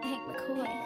Hank McCoy.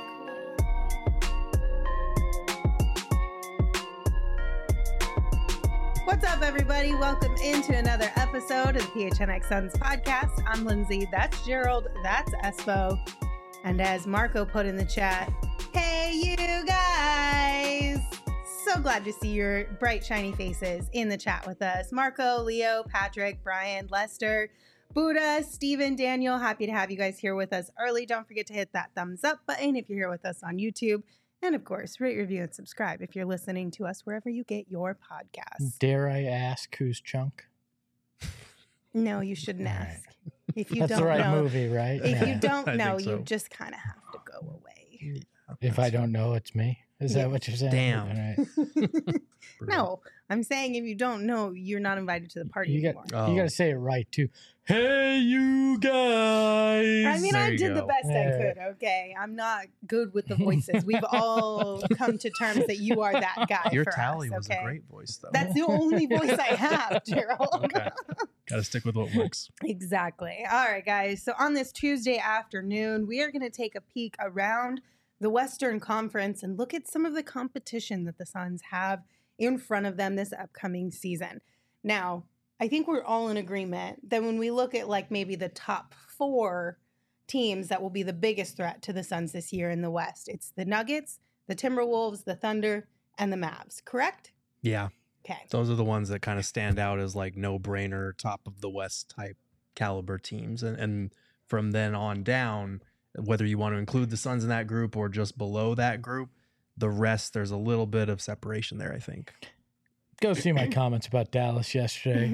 What's up, everybody? Welcome into another episode of the PHNX Suns podcast. I'm Lindsay. That's Gerald. That's Espo. And as Marco put in the chat, hey, you guys. So glad to see your bright, shiny faces in the chat with us. Marco, Leo, Patrick, Brian, Lester, Buddha, Steven, Daniel. Happy to have you guys here with us early. Don't forget to hit that thumbs up button if you're here with us on YouTube. And of course, rate, review, and subscribe if you're listening to us wherever you get your podcasts. Dare I ask who's Chunk? No, you shouldn't ask. If you That's don't the right know, movie, right? if you Yeah. don't I know, think so. you just kind of have to go away. If I don't know, it's me. Is Yeah. that what you're saying? Damn. All right. No, I'm saying if you don't know, you're not invited to the party You anymore. got to say it right too. Hey, you guys! I mean, There I you did the go. best I Yeah. could, okay? I'm not good with the voices. We've all come to terms that you are that guy Your for tally us, was okay? a great voice, though. That's the only voice I have, Gerald. Okay. Got to stick with what works. Exactly. All right, guys. So on this Tuesday afternoon, we are going to take a peek around the Western Conference and look at some of the competition that the Suns have in front of them this upcoming season. Now, I think we're all in agreement that when we look at like maybe the top 4 teams that will be the biggest threat to the Suns this year in the West, it's the Nuggets, the Timberwolves, the Thunder, and the Mavs, correct? Yeah. Okay. Those are the ones that kind of stand out as like no-brainer, top of the West type caliber teams. And from then on down, whether you want to include the Suns in that group or just below that group, the rest, there's a little bit of separation there, I think. Go see my comments about Dallas yesterday.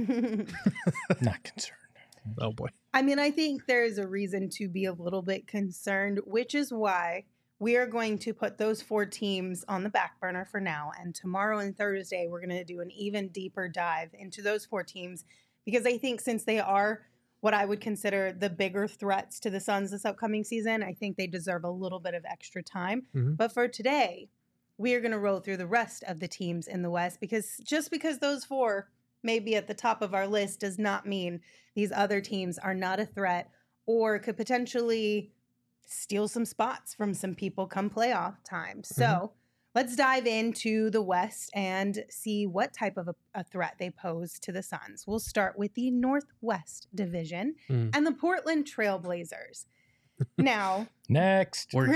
Not concerned. Oh, boy. I mean, I think there is a reason to be a little bit concerned, which is why we are going to put those 4 teams on the back burner for now. And tomorrow and Thursday, we're going to do an even deeper dive into those 4 teams, because I think since they are what I would consider the bigger threats to the Suns this upcoming season, I think they deserve a little bit of extra time. Mhm. But for today, we are going to roll through the rest of the teams in the West, because just because those 4 may be at the top of our list does not mean these other teams are not a threat or could potentially steal some spots from some people come playoff time. So let's dive into the West and see what type of a threat they pose to the Suns. We'll start with the Northwest Division and the Portland Trailblazers. Now, Next. We're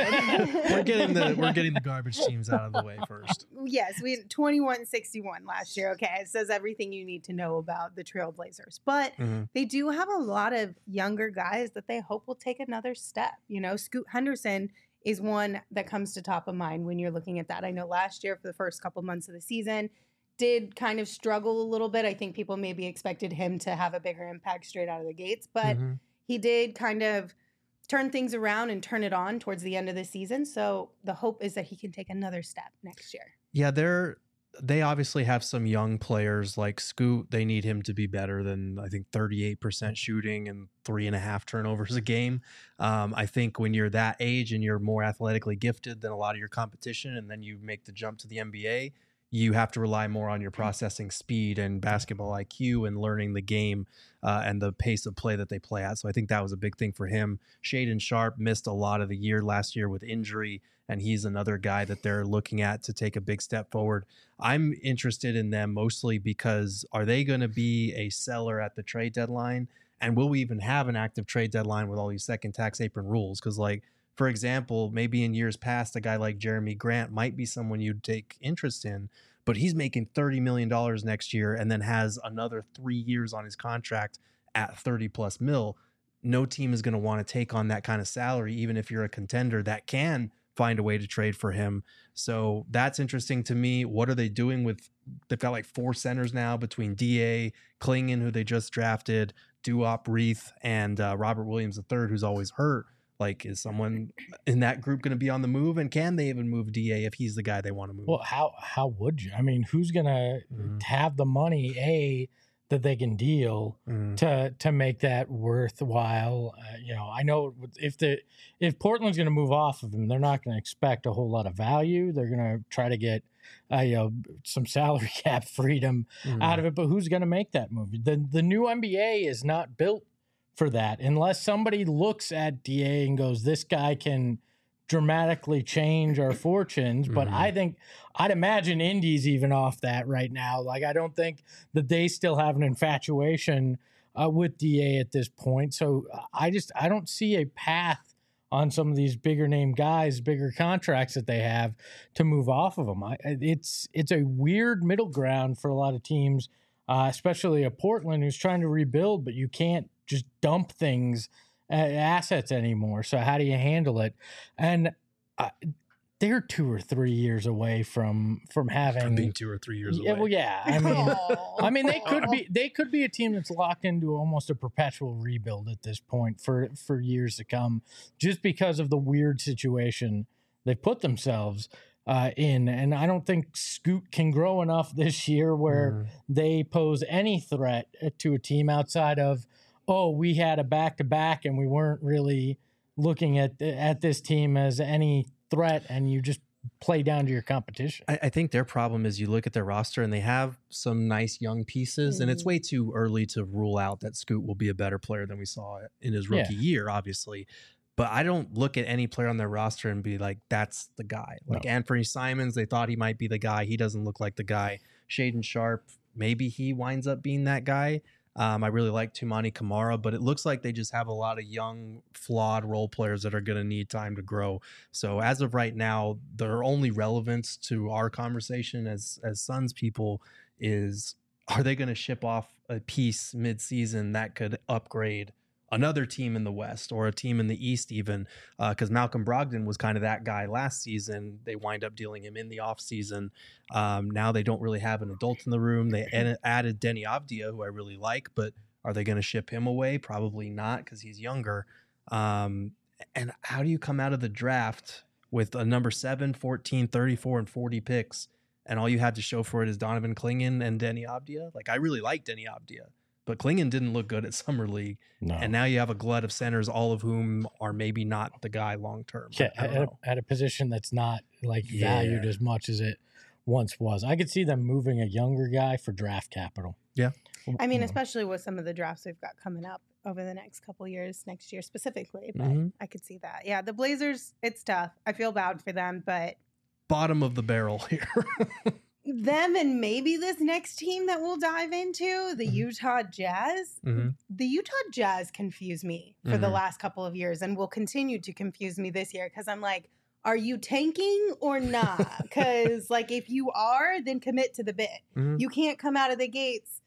granted, we're getting the garbage teams out of the way first. yes, we had 21-61 last year. Okay, it says everything you need to know about the Trailblazers. But Mhm. they do have a lot of younger guys that they hope will take another step. You know, Scoot Henderson is one that comes to top of mind when you're looking at that. I know last year for the first couple months of the season did kind of struggle a little bit. I think people maybe expected him to have a bigger impact straight out of the gates, but Mhm. he did kind of turn things around and turn it on towards the end of the season. So the hope is that he can take another step next year. Yeah, they obviously have some young players like Scoot. They need him to be better than, I think, 38% shooting and 3.5 turnovers a game. I think when you're that age and you're more athletically gifted than a lot of your competition, and then you make the jump to the NBA, you have to rely more on your processing speed and basketball IQ and learning the game and the pace of play that they play at. So I think that was a big thing for him. Shaedon Sharpe missed a lot of the year last year with injury, and he's another guy that they're looking at to take a big step forward. I'm interested in them mostly because are they going to be a seller at the trade deadline? And will we even have an active trade deadline with all these second tax apron rules? Because, like, for example, maybe in years past, a guy like Jeremy Grant might be someone you'd take interest in, but he's making $30 million next year and then has another 3 years on his contract at 30 plus mil. No team is going to want to take on that kind of salary, even if you're a contender that can find a way to trade for him. So that's interesting to me. What are they doing with, they've got like 4 centers now between DA, Klingon, who they just drafted, Duop, Reith, and Robert Williams III, who's always hurt. Like, is someone in that group going to be on the move? And can they even move DA if he's the guy they want to move? Well, how would you? I mean, who's gonna have the money that they can deal to make that worthwhile? I know if Portland's going to move off of him, they're not going to expect a whole lot of value. They're going to try to get some salary cap freedom out of it. But who's going to make that move? The new NBA is not built for that unless somebody looks at DA and goes, this guy can dramatically change our fortunes. But I think I'd imagine Indy's even off that right now. Like, I don't think that they still have an infatuation with DA at this point. So I don't see a path on some of these bigger name guys, bigger contracts that they have to move off of them. It's a weird middle ground for a lot of teams, especially a Portland who's trying to rebuild, but you can't just dump things, assets anymore. So how do you handle it? And they're 2 or 3 years away from being 2 or 3 years away. Well, yeah. I mean, they could be a team that's locked into almost a perpetual rebuild at this point for years to come, just because of the weird situation they put themselves in. And I don't think Scoot can grow enough this year where they pose any threat to a team outside of, oh, we had a back-to-back and we weren't really looking at this team as any threat, and you just play down to your competition. I think their problem is you look at their roster and they have some nice young pieces, and it's way too early to rule out that Scoot will be a better player than we saw in his rookie year, obviously. But I don't look at any player on their roster and be like, that's the guy. Like Anthony Simons, they thought he might be the guy. He doesn't look like the guy. Shaden Sharp, maybe he winds up being that guy. I really like Tumani Kamara, but it looks like they just have a lot of young, flawed role players that are going to need time to grow. So as of right now, their only relevance to our conversation as Suns people is, are they going to ship off a piece mid-season that could upgrade another team in the West or a team in the East even, because Malcolm Brogdon was kind of that guy last season. They wind up dealing him in the offseason. Now they don't really have an adult in the room. They added Denny Avdia, who I really like, but are they going to ship him away? Probably not, because he's younger. And how do you come out of the draft with a number 7, 14, 34, and 40 picks, and all you had to show for it is Donovan Clingan and Denny Avdia? Like, I really like Denny Avdia, but Clingan didn't look good at Summer League. No. And now you have a glut of centers, all of whom are maybe not the guy long-term. Yeah, at a position that's not valued as much as it once was. I could see them moving a younger guy for draft capital. Yeah. I mean, especially with some of the drafts we've got coming up over the next couple years, next year specifically, but I could see that. Yeah, the Blazers, it's tough. I feel bad for them, but bottom of the barrel here. Them and maybe this next team that we'll dive into, the Utah Jazz. The Utah Jazz confused me for the last couple of years and will continue to confuse me this year, because I'm like, are you tanking or not? Because like, if you are, then commit to the bit. You can't come out of the gates,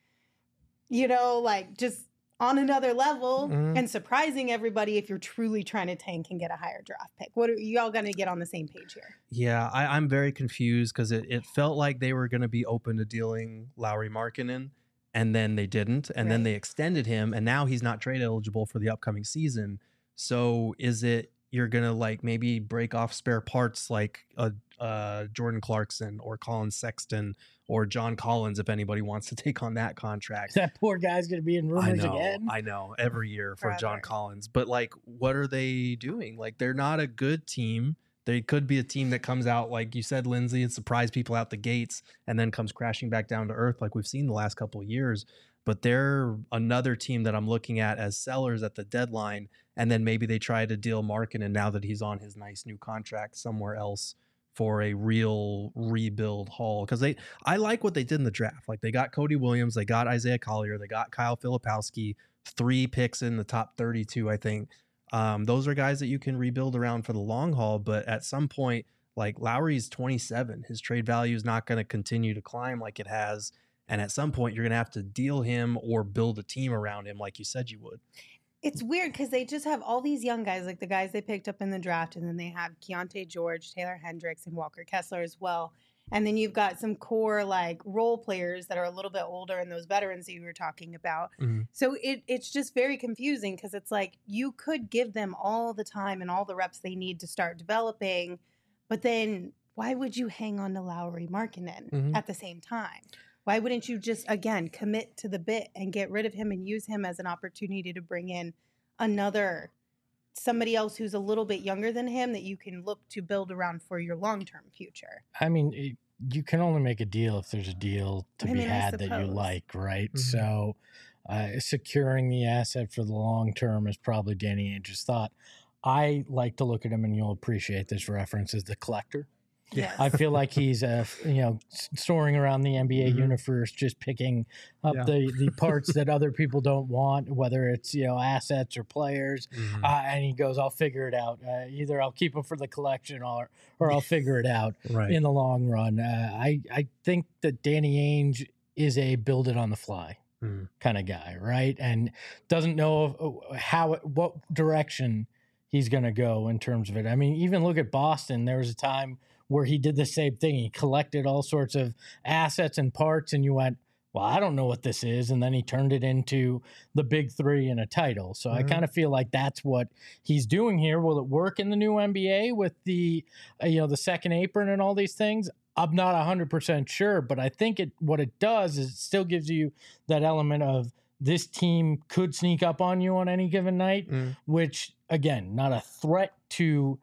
like just on another level and surprising everybody if you're truly trying to tank and get a higher draft pick. What are you all going to get on the same page here? Yeah, I'm very confused, because it felt like they were going to be open to dealing Lauri Markkanen, and then they didn't. And then they extended him, and now he's not trade eligible for the upcoming season. So is it you're going to like maybe break off spare parts like Jordan Clarkson or Colin Sexton or John Collins, if anybody wants to take on that contract? That poor guy's going to be in rumors again. I know, every year for John Collins. But like, what are they doing? Like, they're not a good team. They could be a team that comes out, like you said, Lindsay, and surprise people out the gates and then comes crashing back down to earth like we've seen the last couple of years. But they're another team that I'm looking at as sellers at the deadline. And then maybe they try to deal Markkanen now that he's on his nice new contract somewhere else for a real rebuild haul. Because I like what they did in the draft. Like, they got Cody Williams, they got Isaiah Collier, they got Kyle Filipowski, 3 picks in the top 32, I think. Those are guys that you can rebuild around for the long haul. But at some point, like, Lowry's 27. His trade value is not going to continue to climb like it has. And at some point, you're going to have to deal him or build a team around him like you said you would. It's weird because they just have all these young guys, like the guys they picked up in the draft, and then they have Keontae George, Taylor Hendricks, and Walker Kessler as well. And then you've got some core like role players that are a little bit older and those veterans that you were talking about. So it's just very confusing, because it's like you could give them all the time and all the reps they need to start developing, but then why would you hang on to Lauri Markkanen at the same time? Why wouldn't you just, again, commit to the bit and get rid of him and use him as an opportunity to bring in somebody else who's a little bit younger than him that you can look to build around for your long-term future? I mean, you can only make a deal if there's a deal to be had that you like, right? So securing the asset for the long term is probably Danny Ainge's thought. I like to look at him, and you'll appreciate this reference, as the collector. Yes. I feel like he's soaring around the NBA universe, just picking up the parts that other people don't want, whether it's assets or players, and he goes, "I'll figure it out. Either I'll keep them for the collection, or I'll figure it out in the long run." I think that Danny Ainge is a build it on the fly kind of guy, right? And doesn't know what direction he's going to go in terms of it. I mean, even look at Boston. There was a time where he did the same thing. He collected all sorts of assets and parts, and you went, well, I don't know what this is. And then he turned it into the big three and a title. So I kind of feel like that's what he's doing here. Will it work in the new NBA with the, the second apron and all these things? I'm not 100% sure, but I think what it does is it still gives you that element of this team could sneak up on you on any given night, which, again, not a threat to,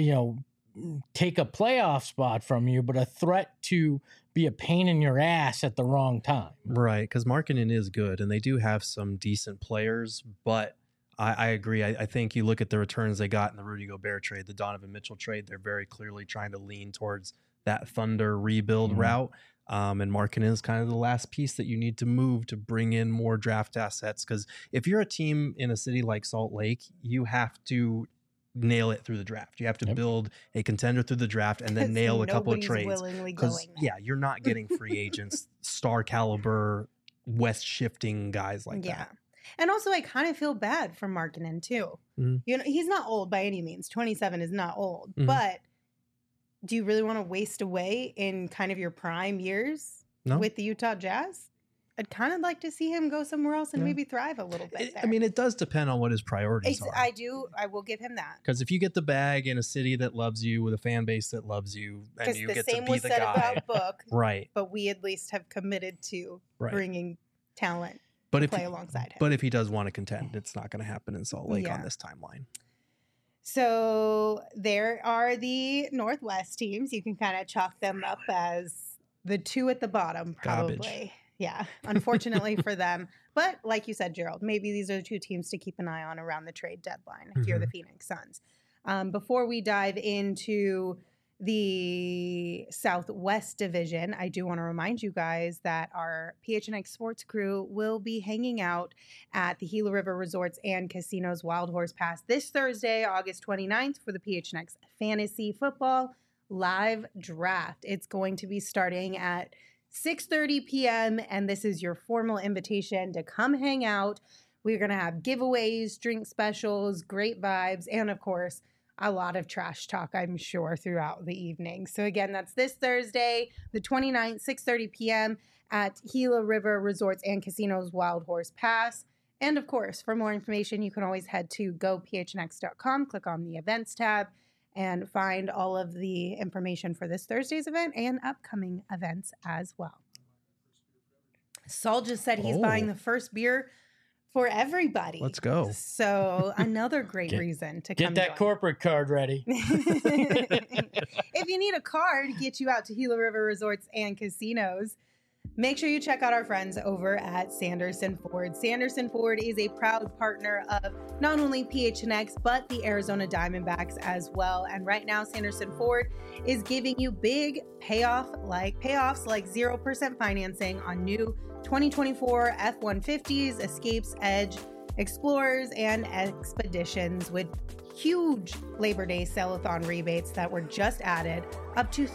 take a playoff spot from you, but a threat to be a pain in your ass at the wrong time. Right, because Markkanen is good, and they do have some decent players, but I agree. I think you look at the returns they got in the Rudy Gobert trade, the Donovan Mitchell trade, they're very clearly trying to lean towards that Thunder rebuild route. And Markkanen is kind of the last piece that you need to move to bring in more draft assets. Because if you're a team in a city like Salt Lake, you have to nail it through the draft. You have to build a contender through the draft and then nail a couple of trades. Because you're not getting free agents, star caliber, west shifting guys like that. And also, I kind of feel bad for Markkanen too. He's not old by any means. 27 is not old, but do you really want to waste away in kind of your prime years with the Utah Jazz? I'd kind of like to see him go somewhere else and maybe thrive a little bit there. I mean, it does depend on what his priorities are. I will give him that. Because if you get the bag in a city that loves you, with a fan base that loves you, and you get to be the guy. Because the same was said about Book. Right. But we at least have committed to bringing talent to play alongside him. But if he does want to contend, it's not going to happen in Salt Lake on this timeline. So there are the Northwest teams. You can kind of chalk them up as the two at the bottom, probably. Garbage. Yeah, unfortunately for them. But like you said, Gerald, maybe these are the two teams to keep an eye on around the trade deadline if you're the Phoenix Suns. Before we dive into the Southwest Division, I do want to remind you guys that our PHNX Sports crew will be hanging out at the Gila River Resorts and Casinos Wild Horse Pass this Thursday, August 29th, for the PHNX Fantasy Football Live Draft. It's going to be starting at 6:30 p.m. and this is your formal invitation to come hang out. We're going to have giveaways, drink specials, great vibes, and of course, a lot of trash talk, I'm sure, throughout the evening. So again, that's this Thursday, the 29th, 6:30 p.m. at Gila River Resorts and Casinos Wild Horse Pass. And of course, for more information, you can always head to gophnx.com, click on the events tab, and find all of the information for this Thursday's event and upcoming events as well. Saul just said he's buying the first beer for everybody. Let's go. So another great reason to come get that corporate card ready. If you need a card to get you out to Gila River Resorts and Casinos, make sure you check out our friends over at Sanderson Ford. Sanderson Ford is a proud partner of not only PHNX, but the Arizona Diamondbacks as well. And right now, Sanderson Ford is giving you big payoffs like 0% financing on new 2024 F-150s, Escapes, Edge, Explorers, and Expeditions with huge Labor Day sale-a-thon rebates that were just added, up to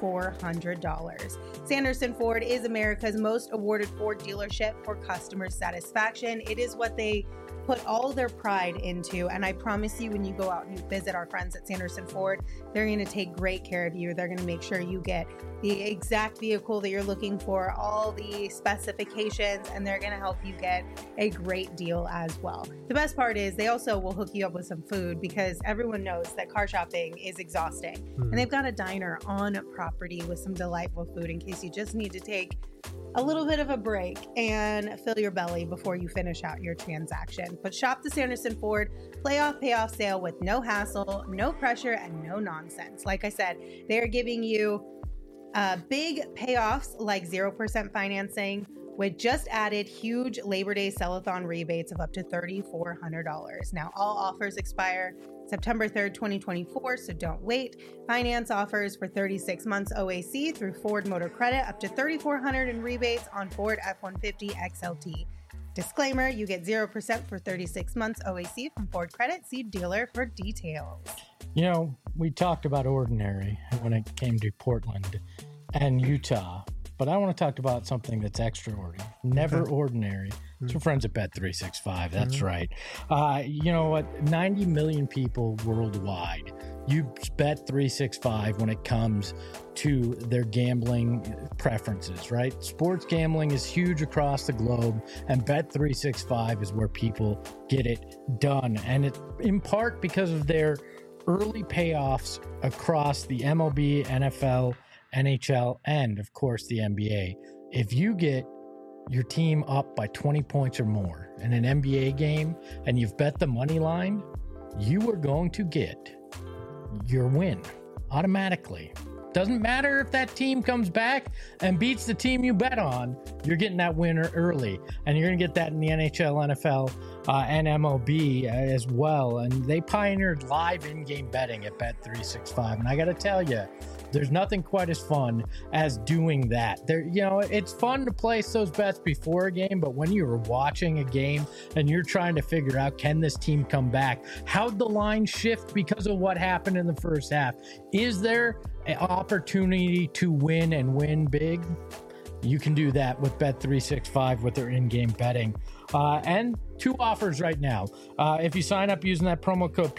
$3,400. Sanderson Ford is America's most awarded Ford dealership for customer satisfaction. It is what they put all their pride into, and I promise you, when you go out and you visit our friends at Sanderson Ford, they're going to take great care of you. They're going to make sure you get the exact vehicle that you're looking for, all the specifications, and they're going to help you get a great deal as well. The best part is they also will hook you up with some food, because everyone knows that car shopping is exhausting. And they've got a diner on property with some delightful food in case you just need to take a little bit of a break and fill your belly before you finish out your transaction. But shop the Sanderson Ford payoff sale with no hassle, no pressure, and no nonsense. Like I said, they're giving you big payoffs like 0% financing with just added huge Labor Day sell-a-thon rebates of up to $3,400. Now, all offers expire September 3rd, 2024, so don't wait. Finance offers for 36 months OAC through Ford Motor Credit, up to $3,400 in rebates on Ford F-150 XLT. Disclaimer, you get 0% for 36 months OAC from Ford Credit. See dealer for details. You know, we talked about ordinary when it came to Portland and Utah, but I want to talk about something that's extraordinary, never ordinary. It's our friends at Bet365. That's right. You know what? 90 million people worldwide use Bet365 when it comes to their gambling preferences, right? Sports gambling is huge across the globe, and Bet365 is where people get it done. And it, in part because of their early payoffs across the MLB, NFL, NHL, and of course the NBA. If you get your team up by 20 points or more in an NBA game and you've bet the money line, you are going to get your win automatically. Doesn't matter if that team comes back and beats the team you bet on, you're getting that winner early. And you're going to get that in the NHL, NFL, and MLB as well. And they pioneered live in-game betting at Bet365. And I got to tell you, there's nothing quite as fun as doing that. There, you know, it's fun to place those bets before a game, but when you're watching a game and you're trying to figure out, can this team come back? How'd the line shift because of what happened in the first half? Is there an opportunity to win and win big? You can do that with Bet365 with their in-game betting. And two offers right now. If you sign up using that promo code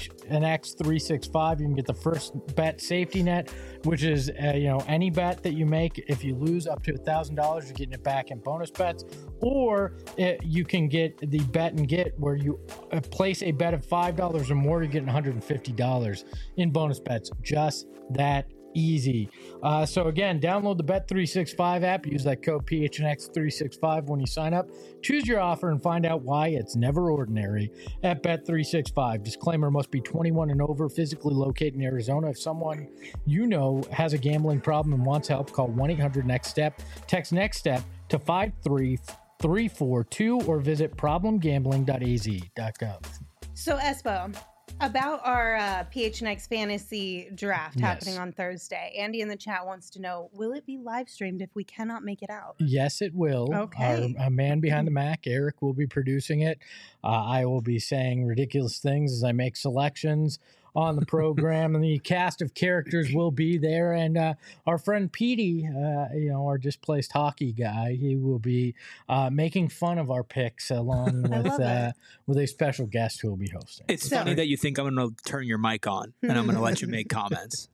PHNX365, you can get the first bet safety net, which is any bet that you make. If you lose up to $1,000, you're getting it back in bonus bets. Or you can get the bet and get, where you place a bet of $5 or more, you're getting $150 in bonus bets. Just that easy. So again, download the Bet365 app, use that code PHNX365 when you sign up, choose your offer, and find out why it's never ordinary at Bet365. Disclaimer: must be 21 and over, physically located in Arizona. If someone you know has a gambling problem and wants help, call 1-800-NEXT-STEP. Text NEXT STEP to 53342 or visit problemgambling.az.gov. So, Espo, about our PHNX fantasy draft happening on Thursday, Andy in the chat wants to know, will it be live streamed if we cannot make it out? Yes, it will. Okay. Our man behind the Mac, Eric, will be producing it. I will be saying ridiculous things as I make selections on the program, and the cast of characters will be there. And our friend Petey, our displaced hockey guy, he will be making fun of our picks along with a special guest who will be hosting. It's funny that you think I'm going to turn your mic on and I'm going to let you make comments.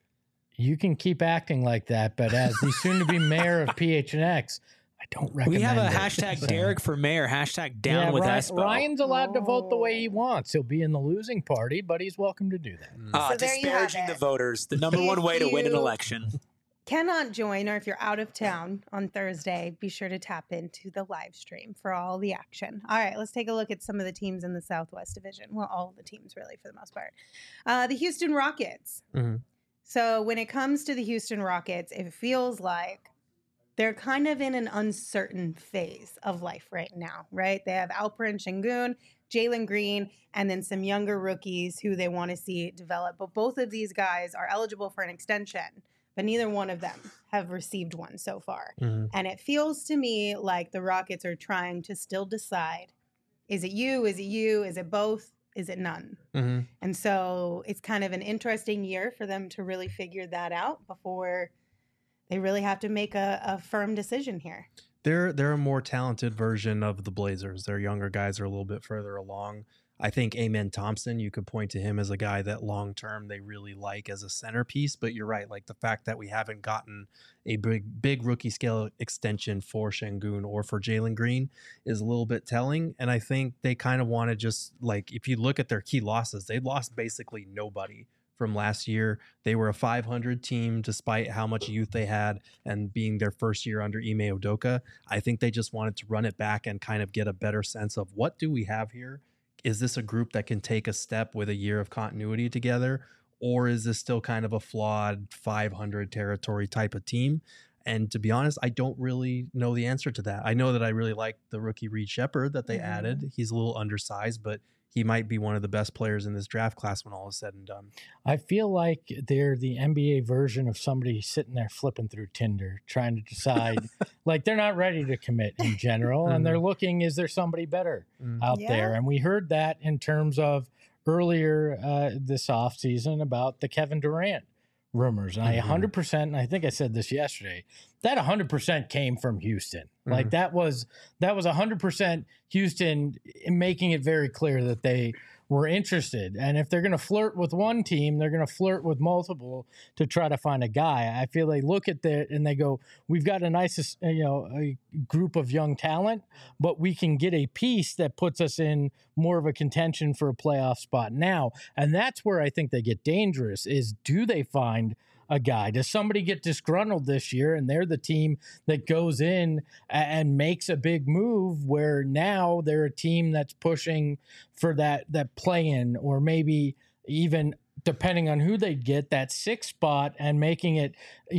You can keep acting like that, but as the soon-to-be mayor of PHNX, I don't recommend We have a it. hashtag Derek for mayor, hashtag down with Espo. Ryan's allowed to vote the way he wants. He'll be in the losing party, but he's welcome to do that. So there you have disparaging the it. voters, the number one way to win an election. Cannot join, or if you're out of town on Thursday, be sure to tap into the live stream for all the action. All right, let's take a look at some of the teams in the Southwest Division. Well, all of the teams, really, for the most part. The Houston Rockets. Mm-hmm. So when it comes to the Houston Rockets, it feels like they're kind of in an uncertain phase of life right now, right? They have Alperen Sengun, Jalen Green, and then some younger rookies who they want to see develop. But both of these guys are eligible for an extension, but neither one of them have received one so far. Mm-hmm. And it feels to me like the Rockets are trying to still decide, is it you, is it you, is it both, is it none? Mm-hmm. And so it's kind of an interesting year for them to really figure that out before they really have to make a firm decision here. They're a more talented version of the Blazers. Their younger guys are a little bit further along. I think Amen Thompson, you could point to him as a guy that long term they really like as a centerpiece. But you're right, like the fact that we haven't gotten a big rookie scale extension for Sengun or for Jalen Green is a little bit telling. And I think they kind of want to just, like, if you look at their key losses, they lost basically nobody from last year. They were a 500 team despite how much youth they had and being their first year under Ime Udoka. I think they just wanted to run it back and kind of get a better sense of, what do we have here? Is this a group that can take a step with a year of continuity together? Or is this still kind of a flawed 500 territory type of team? And to be honest, I don't really know the answer to that. I know that I really like the rookie Reed Shepherd that they added. He's a little undersized, but he might be one of the best players in this draft class when all is said and done. I feel like they're the NBA version of somebody sitting there flipping through Tinder, trying to decide, like they're not ready to commit in general. And they're looking, is there somebody better out there? And we heard that in terms of earlier this offseason about the Kevin Durant rumors. And I 100%, and I think I said this yesterday, that 100% came from Houston. Like that was 100% Houston making it very clear that they were interested. And if they're going to flirt with one team, they're going to flirt with multiple to try to find a guy. I feel they look at that and they go, we've got a nice, a group of young talent, but we can get a piece that puts us in more of a contention for a playoff spot now. And that's where I think they get dangerous is, do they find a guy? Does somebody get disgruntled this year and they're the team that goes in and makes a big move where now they're a team that's pushing for that play-in, or maybe even, depending on who they get, that sixth spot, and making it,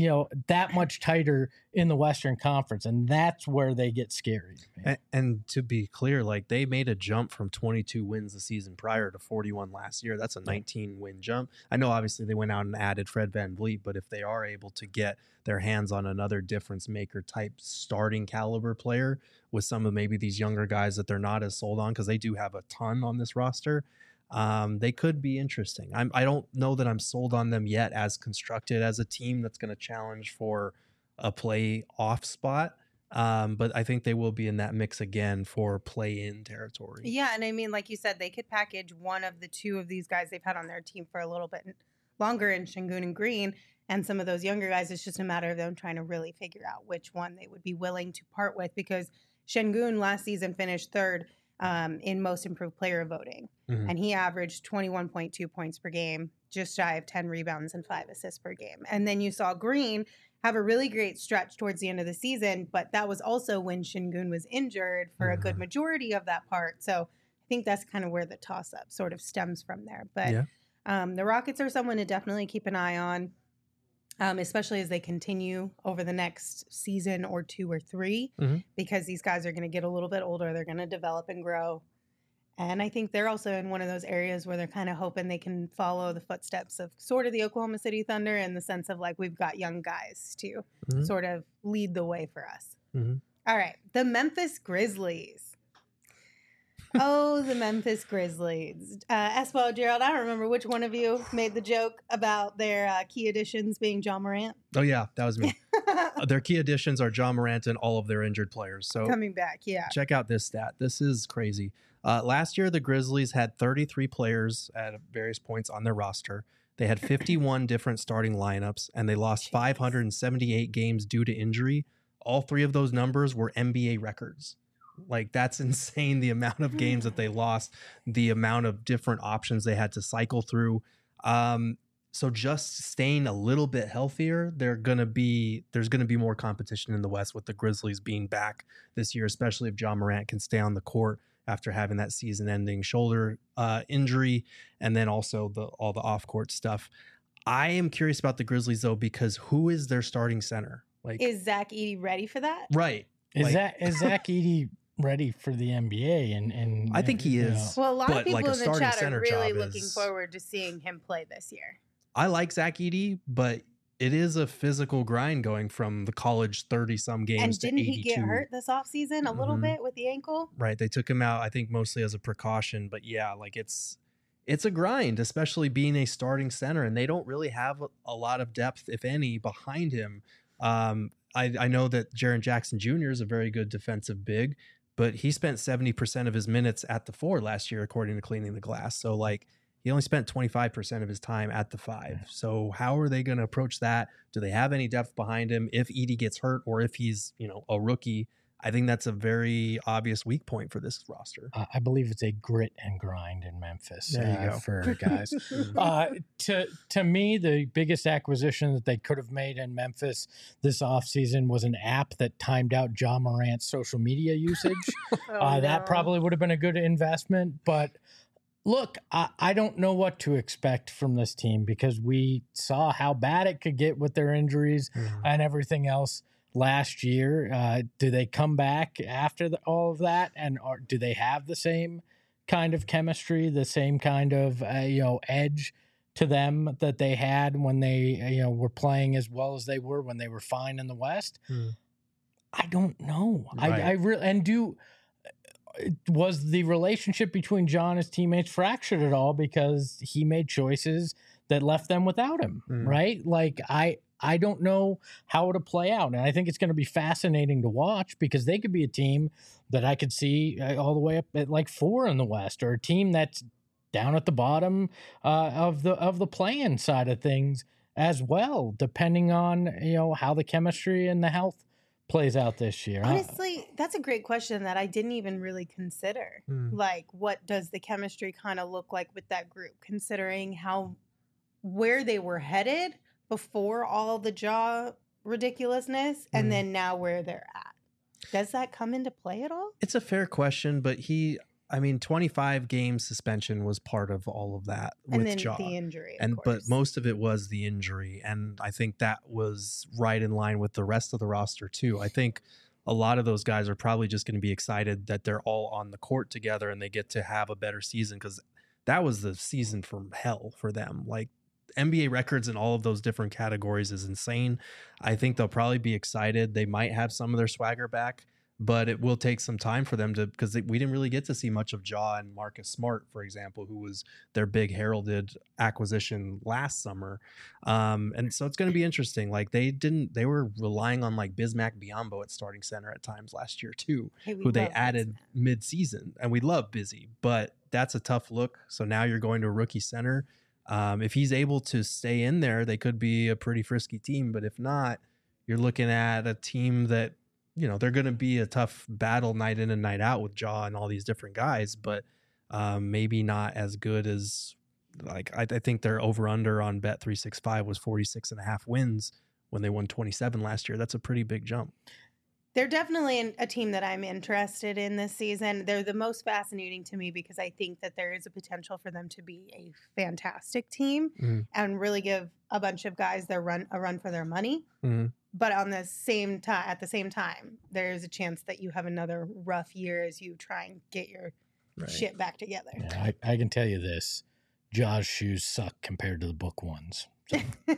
that much tighter in the Western Conference. And that's where they get scary. And to be clear, like they made a jump from 22 wins the season prior to 41 last year. That's a 19-win jump. I know obviously they went out and added Fred VanVleet, but if they are able to get their hands on another difference maker type starting caliber player with some of maybe these younger guys that they're not as sold on, because they do have a ton on this roster, they could be interesting. I don't know that I'm sold on them yet as constructed as a team that's going to challenge for a play-off spot. But I think they will be in that mix again for play-in territory. Yeah, and I mean, like you said, they could package one of the two of these guys they've had on their team for a little bit longer in Şengün and Green, and some of those younger guys, it's just a matter of them trying to really figure out which one they would be willing to part with, because Şengün last season finished third in most improved player voting. And he averaged 21.2 points per game, just shy of 10 rebounds and 5 assists per game. And then you saw Green have a really great stretch towards the end of the season, but that was also when Şengün was injured for a good majority of that part. So I think that's kind of where the toss-up sort of stems from there. But the Rockets are someone to definitely keep an eye on, especially as they continue over the next season or 2 or 3, because these guys are going to get a little bit older. They're going to develop and grow. And I think they're also in one of those areas where they're kind of hoping they can follow the footsteps of sort of the Oklahoma City Thunder, in the sense of like, we've got young guys to sort of lead the way for us. All right. The Memphis Grizzlies. Oh, the Memphis Grizzlies. Espo, Gerald, I don't remember which one of you made the joke about their key additions being Ja Morant. Oh, yeah, that was me. Their key additions are Ja Morant and all of their injured players. So coming back, check out this stat. This is crazy. Last year, the Grizzlies had 33 players at various points on their roster. They had 51 different starting lineups, and they lost 578 games due to injury. All 3 of those numbers were NBA records. Like, that's insane, the amount of games that they lost, the amount of different options they had to cycle through. So just staying a little bit healthier, there's going to be more competition in the West with the Grizzlies being back this year, especially if Ja Morant can stay on the court after having that season-ending shoulder injury, and then also all the off-court stuff. I am curious about the Grizzlies, though, because who is their starting center? Like, is Zach Edey ready for that? Right. Is Zach Edey ready for the NBA? And I think he is. Well, a lot of people like in the chat are really looking forward to seeing him play this year. I like Zach Edey, but it is a physical grind going from the college 30-some games to 82. And didn't he get hurt this offseason a little bit with the ankle? Right. They took him out, I think, mostly as a precaution. But yeah, like it's a grind, especially being a starting center. And they don't really have a lot of depth, if any, behind him. I know that Jaren Jackson Jr. is a very good defensive big, but he spent 70% of his minutes at the 4 last year, according to Cleaning the Glass. So, like, he only spent 25% of his time at the 5. So how are they going to approach that? Do they have any depth behind him? If Edey gets hurt or if he's, a rookie, I think that's a very obvious weak point for this roster. I believe it's a grit and grind in Memphis for guys. To me, the biggest acquisition that they could have made in Memphis this offseason was an app that timed out Ja Morant's social media usage. That probably would have been a good investment, but look, I don't know what to expect from this team because we saw how bad it could get with their injuries and everything else. last year. Do they come back after all of that, and do they have the same kind of chemistry, the same kind of edge to them that they had when they were playing as well as they were when they were fine in the West? I don't know. Right. I really was the relationship between John and his teammates fractured at all because he made choices that left them without him, right? Like I don't know how it'll play out. And I think it's going to be fascinating to watch because they could be a team that I could see all the way up at like 4 in the West, or a team that's down at the bottom of the play-in side of things as well, depending on, how the chemistry and the health plays out this year. Honestly, that's a great question that I didn't even really consider. Like, what does the chemistry kind of look like with that group, considering where they were headed before all the jaw ridiculousness, and then now where they're at? Does that come into play at all? It's a fair question, but 25 game suspension was part of all of that with Jaw. The injury, but most of it was the injury, and I think that was right in line with the rest of the roster too. I think a lot of those guys are probably just going to be excited that they're all on the court together and they get to have a better season, because that was the season from hell for them. Like, NBA records in all of those different categories is insane. I think they'll probably be excited. They might have some of their swagger back, but it will take some time for them because we didn't really get to see much of Jaw and Marcus Smart, for example, who was their big heralded acquisition last summer. And so it's going to be interesting. Like, they were relying on like Bismack Biyombo at starting center at times last year too, who they added mid-season, and we love Busy, but that's a tough look. So now you're going to a rookie center. If he's able to stay in there, they could be a pretty frisky team. But if not, you're looking at a team that, they're going to be a tough battle night in and night out with Jaw and all these different guys, but maybe not as good as, like, I think their over-under on Bet365 was 46.5 wins when they won 27 last year. That's a pretty big jump. They're definitely a team that I'm interested in this season. They're the most fascinating to me because I think that there is a potential for them to be a fantastic team and really give a bunch of guys a run for their money. But at the same time, there's a chance that you have another rough year as you try and get your shit back together. Yeah, I can tell you this. Jaw's shoes suck compared to the book ones. So.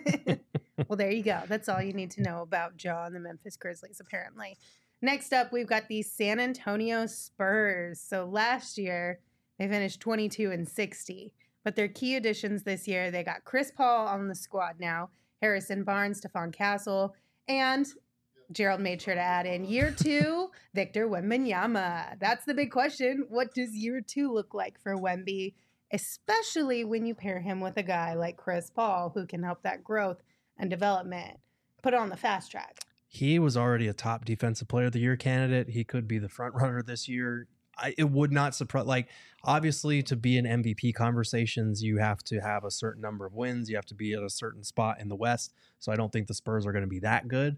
Well, there you go. That's all you need to know about Jaw and the Memphis Grizzlies, apparently. Next up, we've got the San Antonio Spurs. So last year, they finished 22-60. But their key additions this year, they got Chris Paul on the squad now, Harrison Barnes, Stephon Castle, and Gerald made sure to add in year 2, Victor Wembanyama. That's the big question. What does year 2 look like for Wemby, especially when you pair him with a guy like Chris Paul, who can help that growth and development, put it on the fast track? He was already a top defensive player of the year candidate. He could be the front runner this year. It would not surprise, like, obviously to be in MVP conversations, you have to have a certain number of wins. You have to be at a certain spot in the West. So I don't think the Spurs are going to be that good.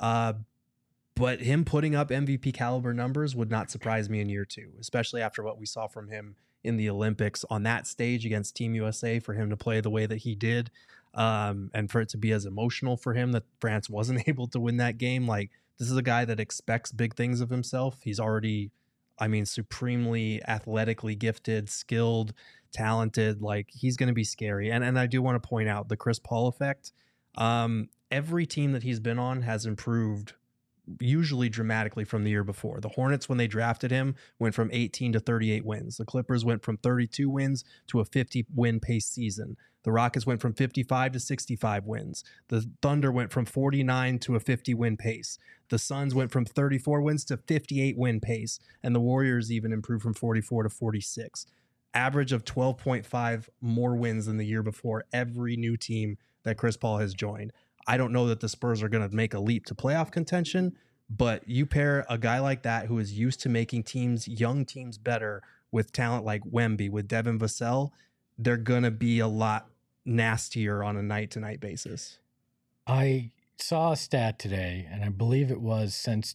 But him putting up MVP caliber numbers would not surprise me in year 2, especially after what we saw from him in the Olympics on that stage against Team USA, for him to play the way that he did. And for it to be as emotional for him that France wasn't able to win that game. Like, this is a guy that expects big things of himself. He's already, supremely athletically gifted, skilled, talented. Like, he's going to be scary. And I do want to point out the Chris Paul effect. Every team that he's been on has improved usually dramatically from the year before. The Hornets, when they drafted him, went from 18 to 38 wins. The Clippers went from 32 wins to a 50-win pace season. The Rockets went from 55 to 65 wins. The Thunder went from 49 to a 50-win pace. The Suns went from 34 wins to 58-win pace. And the Warriors even improved from 44 to 46. Average of 12.5 more wins than the year before every new team that Chris Paul has joined. I don't know that the Spurs are going to make a leap to playoff contention, but you pair a guy like that who is used to making young teams better with talent like Wemby, with Devin Vassell, they're going to be a lot nastier on a night-to-night basis. I saw a stat today, and I believe it was since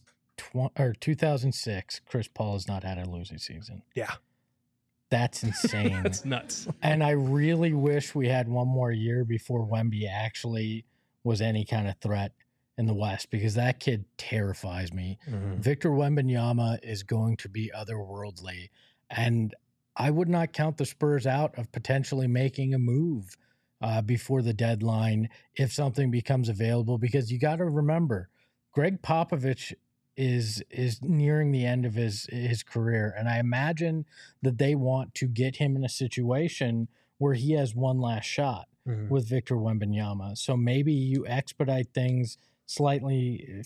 2006, Chris Paul has not had a losing season. Yeah. That's insane. That's nuts. And I really wish we had one more year before Wemby actually was any kind of threat in the West because that kid terrifies me. Victor Wembanyama is going to be otherworldly, and I would not count the Spurs out of potentially making a move before the deadline if something becomes available, because you got to remember Greg Popovich is nearing the end of his career, and I imagine that they want to get him in a situation where he has one last shot with Victor Wembanyama. So maybe you expedite things slightly,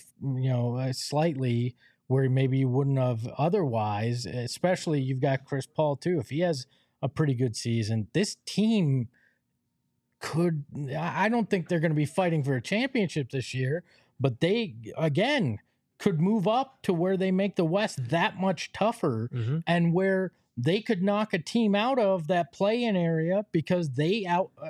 slightly where maybe you wouldn't have otherwise, especially you've got Chris Paul too. If he has a pretty good season, this team could, I don't think they're going to be fighting for a championship this year, but they, again, could move up to where they make the West that much tougher and where they could knock a team out of that play-in area because they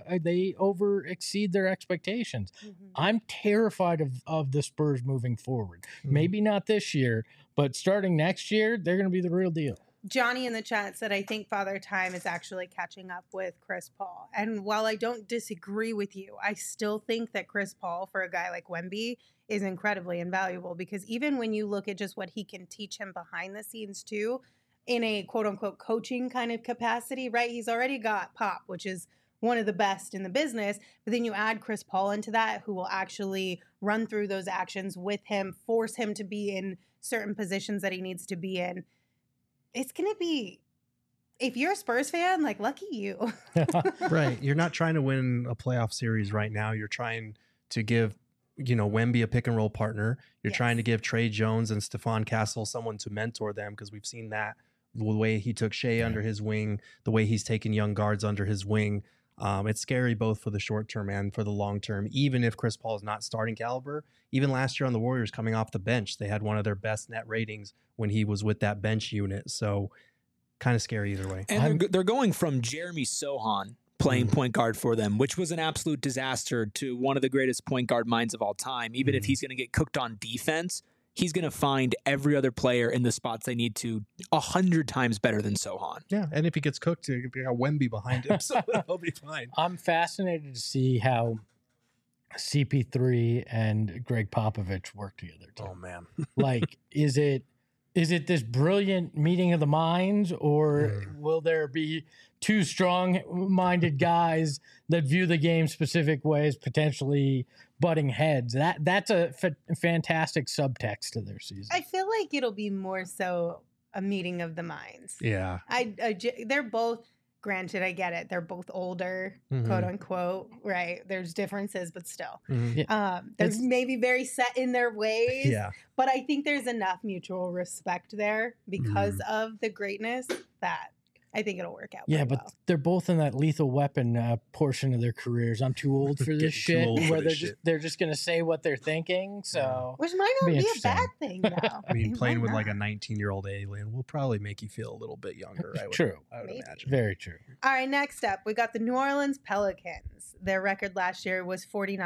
over exceed their expectations. I'm terrified of the Spurs moving forward. Maybe not this year, but starting next year, they're going to be the real deal. Johnny in the chat said, I think Father Time is actually catching up with Chris Paul. And while I don't disagree with you, I still think that Chris Paul, for a guy like Wemby, is incredibly invaluable, because even when you look at just what he can teach him behind the scenes too, in a quote unquote coaching kind of capacity, right? He's already got Pop, which is one of the best in the business. But then you add Chris Paul into that, who will actually run through those actions with him, force him to be in certain positions that he needs to be in. It's going to be, if you're a Spurs fan, like, lucky you. Right. You're not trying to win a playoff series right now. You're trying to give, Wemby a pick and roll partner. You're trying to give Trey Jones and Stephon Castle someone to mentor them, because we've seen that the way he took Shea under his wing, the way he's taken young guards under his wing. It's scary both for the short term and for the long term, even if Chris Paul is not starting caliber. Even last year on the Warriors, coming off the bench, they had one of their best net ratings when he was with that bench unit. So kind of scary either way. And they're going from Jeremy Sohan playing point guard for them, which was an absolute disaster, to one of the greatest point guard minds of all time. Even if he's going to get cooked on defense, he's going to find every other player in the spots they need to 100 times better than Sohan. Yeah, and if he gets cooked, you got Wemby behind him, so he'll be fine. I'm fascinated to see how CP3 and Greg Popovich work together too. Oh man. Like, is it this brilliant meeting of the minds, or will there be two strong-minded guys that view the game specific ways, potentially butting heads? That's a fantastic subtext to their season. I feel like it'll be more so a meeting of the minds. Yeah. They're both, granted, I get it, they're both older, quote unquote, right? There's differences, but still. They're maybe very set in their ways. Yeah. But I think there's enough mutual respect there because of the greatness that I think it'll work out. Yeah, but they're both in that Lethal Weapon portion of their careers. I'm too old for this shit. Where they're just going to say what they're thinking. So, which might not be a bad thing, though. I mean, playing with like a 19-year-old alien will probably make you feel a little bit younger. I would imagine. Very true. All right, next up, we got the New Orleans Pelicans. Their record last year was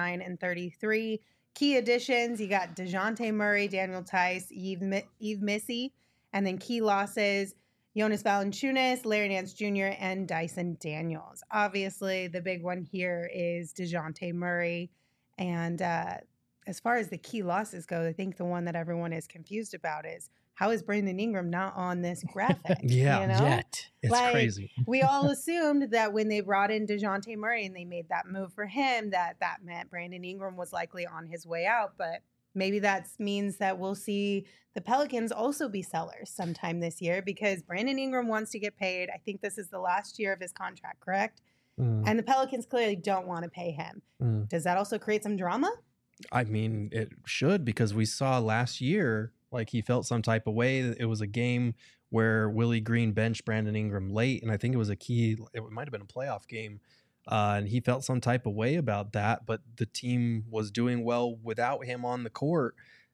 49-33. Key additions: you got DeJounte Murray, Daniel Tice, Yves Missy, and then key losses: Jonas Valanciunas, Larry Nance Jr., and Dyson Daniels. Obviously, the big one here is DeJounte Murray. And as far as the key losses go, I think the one that everyone is confused about is, how is Brandon Ingram not on this graphic? Yet. It's crazy. We all assumed that when they brought in DeJounte Murray and they made that move for him, that meant Brandon Ingram was likely on his way out. But maybe that means that we'll see the Pelicans also be sellers sometime this year, because Brandon Ingram wants to get paid. I think this is the last year of his contract, correct? And the Pelicans clearly don't want to pay him. Does that also create some drama? I mean, it should, because we saw last year, like, he felt some type of way. It was a game where Willie Green benched Brandon Ingram late, and I think it was it might have been a playoff game. And he felt some type of way about that, but the team was doing well without him on the court.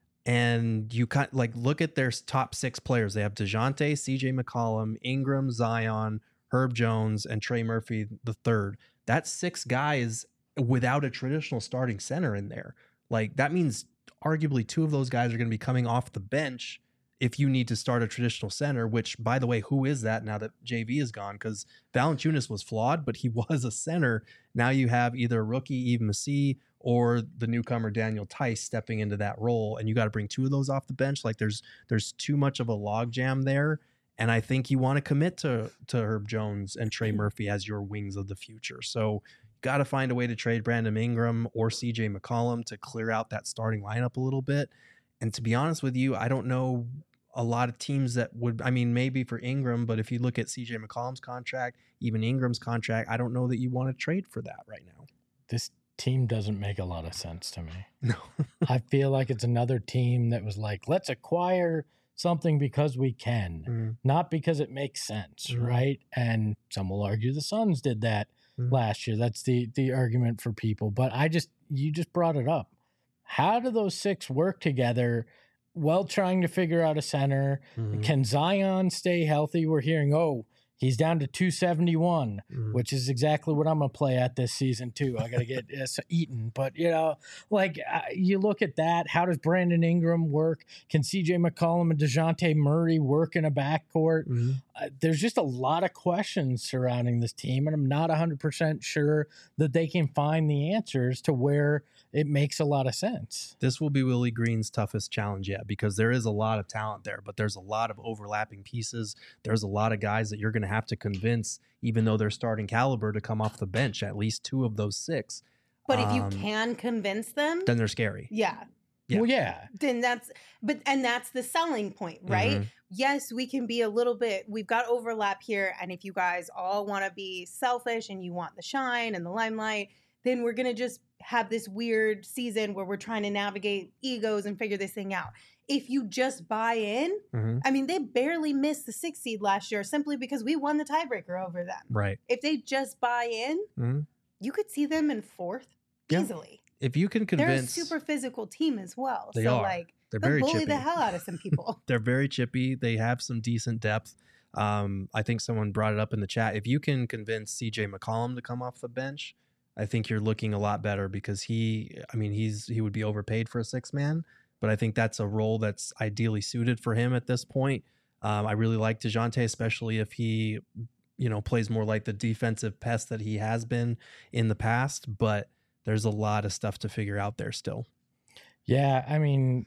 And you kind of like look at their top 6 players. They have DeJounte, CJ McCollum, Ingram, Zion, Herb Jones, and Trey Murphy III. That's 6 guys without a traditional starting center in there. Like, that means arguably 2 of those guys are going to be coming off the bench if you need to start a traditional center, which, by the way, who is that now that JV is gone? Because Valanciunas was flawed, but he was a center. Now you have either a rookie, Yves Missy, or the newcomer Daniel Tice stepping into that role, and you got to bring 2 of those off the bench. Like there's too much of a logjam there, and I think you want to commit to Herb Jones and Trey Murphy as your wings of the future. So got to find a way to trade Brandon Ingram or CJ McCollum to clear out that starting lineup a little bit. And to be honest with you, I don't know a lot of teams that would, I mean, maybe for Ingram, but if you look at CJ McCollum's contract, even Ingram's contract, I don't know that you want to trade for that right now. This team doesn't make a lot of sense to me. No. I feel like it's another team that was like, let's acquire something because we can, not because it makes sense, right? And some will argue the Suns did that last year. That's the argument for people. But you just brought it up. How do those 6 work together while trying to figure out a center? Can Zion stay healthy? We're hearing, he's down to 271, which is exactly what I'm going to play at this season too. I got to get eaten. But, you look at that. How does Brandon Ingram work? Can CJ McCollum and DeJounte Murray work in a backcourt? There's just a lot of questions surrounding this team, and I'm not 100% sure that they can find the answers to where it makes a lot of sense. This will be Willie Green's toughest challenge yet, because there is a lot of talent there, but there's a lot of overlapping pieces. There's a lot of guys that you're going to have to convince, even though they're starting caliber, to come off the bench, at least 2 of those 6. But if you can convince them, then they're scary. Yeah. Well, yeah. Then that's the selling point, right? Yes, we can be a little bit, we've got overlap here. And if you guys all want to be selfish and you want the shine and the limelight, then we're going to just have this weird season where we're trying to navigate egos and figure this thing out. If you just buy in, I mean, they barely missed the 6th seed last year simply because we won the tiebreaker over them. Right. If they just buy in, you could see them in 4th easily. If you can convince, they're a super physical team as well. They so are. Like they're they'll very bully chippy. the hell out of some people. They're very chippy. They have some decent depth. I think someone brought it up in the chat. If you can convince CJ McCollum to come off the bench, I think you're looking a lot better, because he would be overpaid for a 6-man, but I think that's a role that's ideally suited for him at this point. I really like DeJounte, especially if he, plays more like the defensive pest that he has been in the past, but there's a lot of stuff to figure out there still. Yeah, I mean,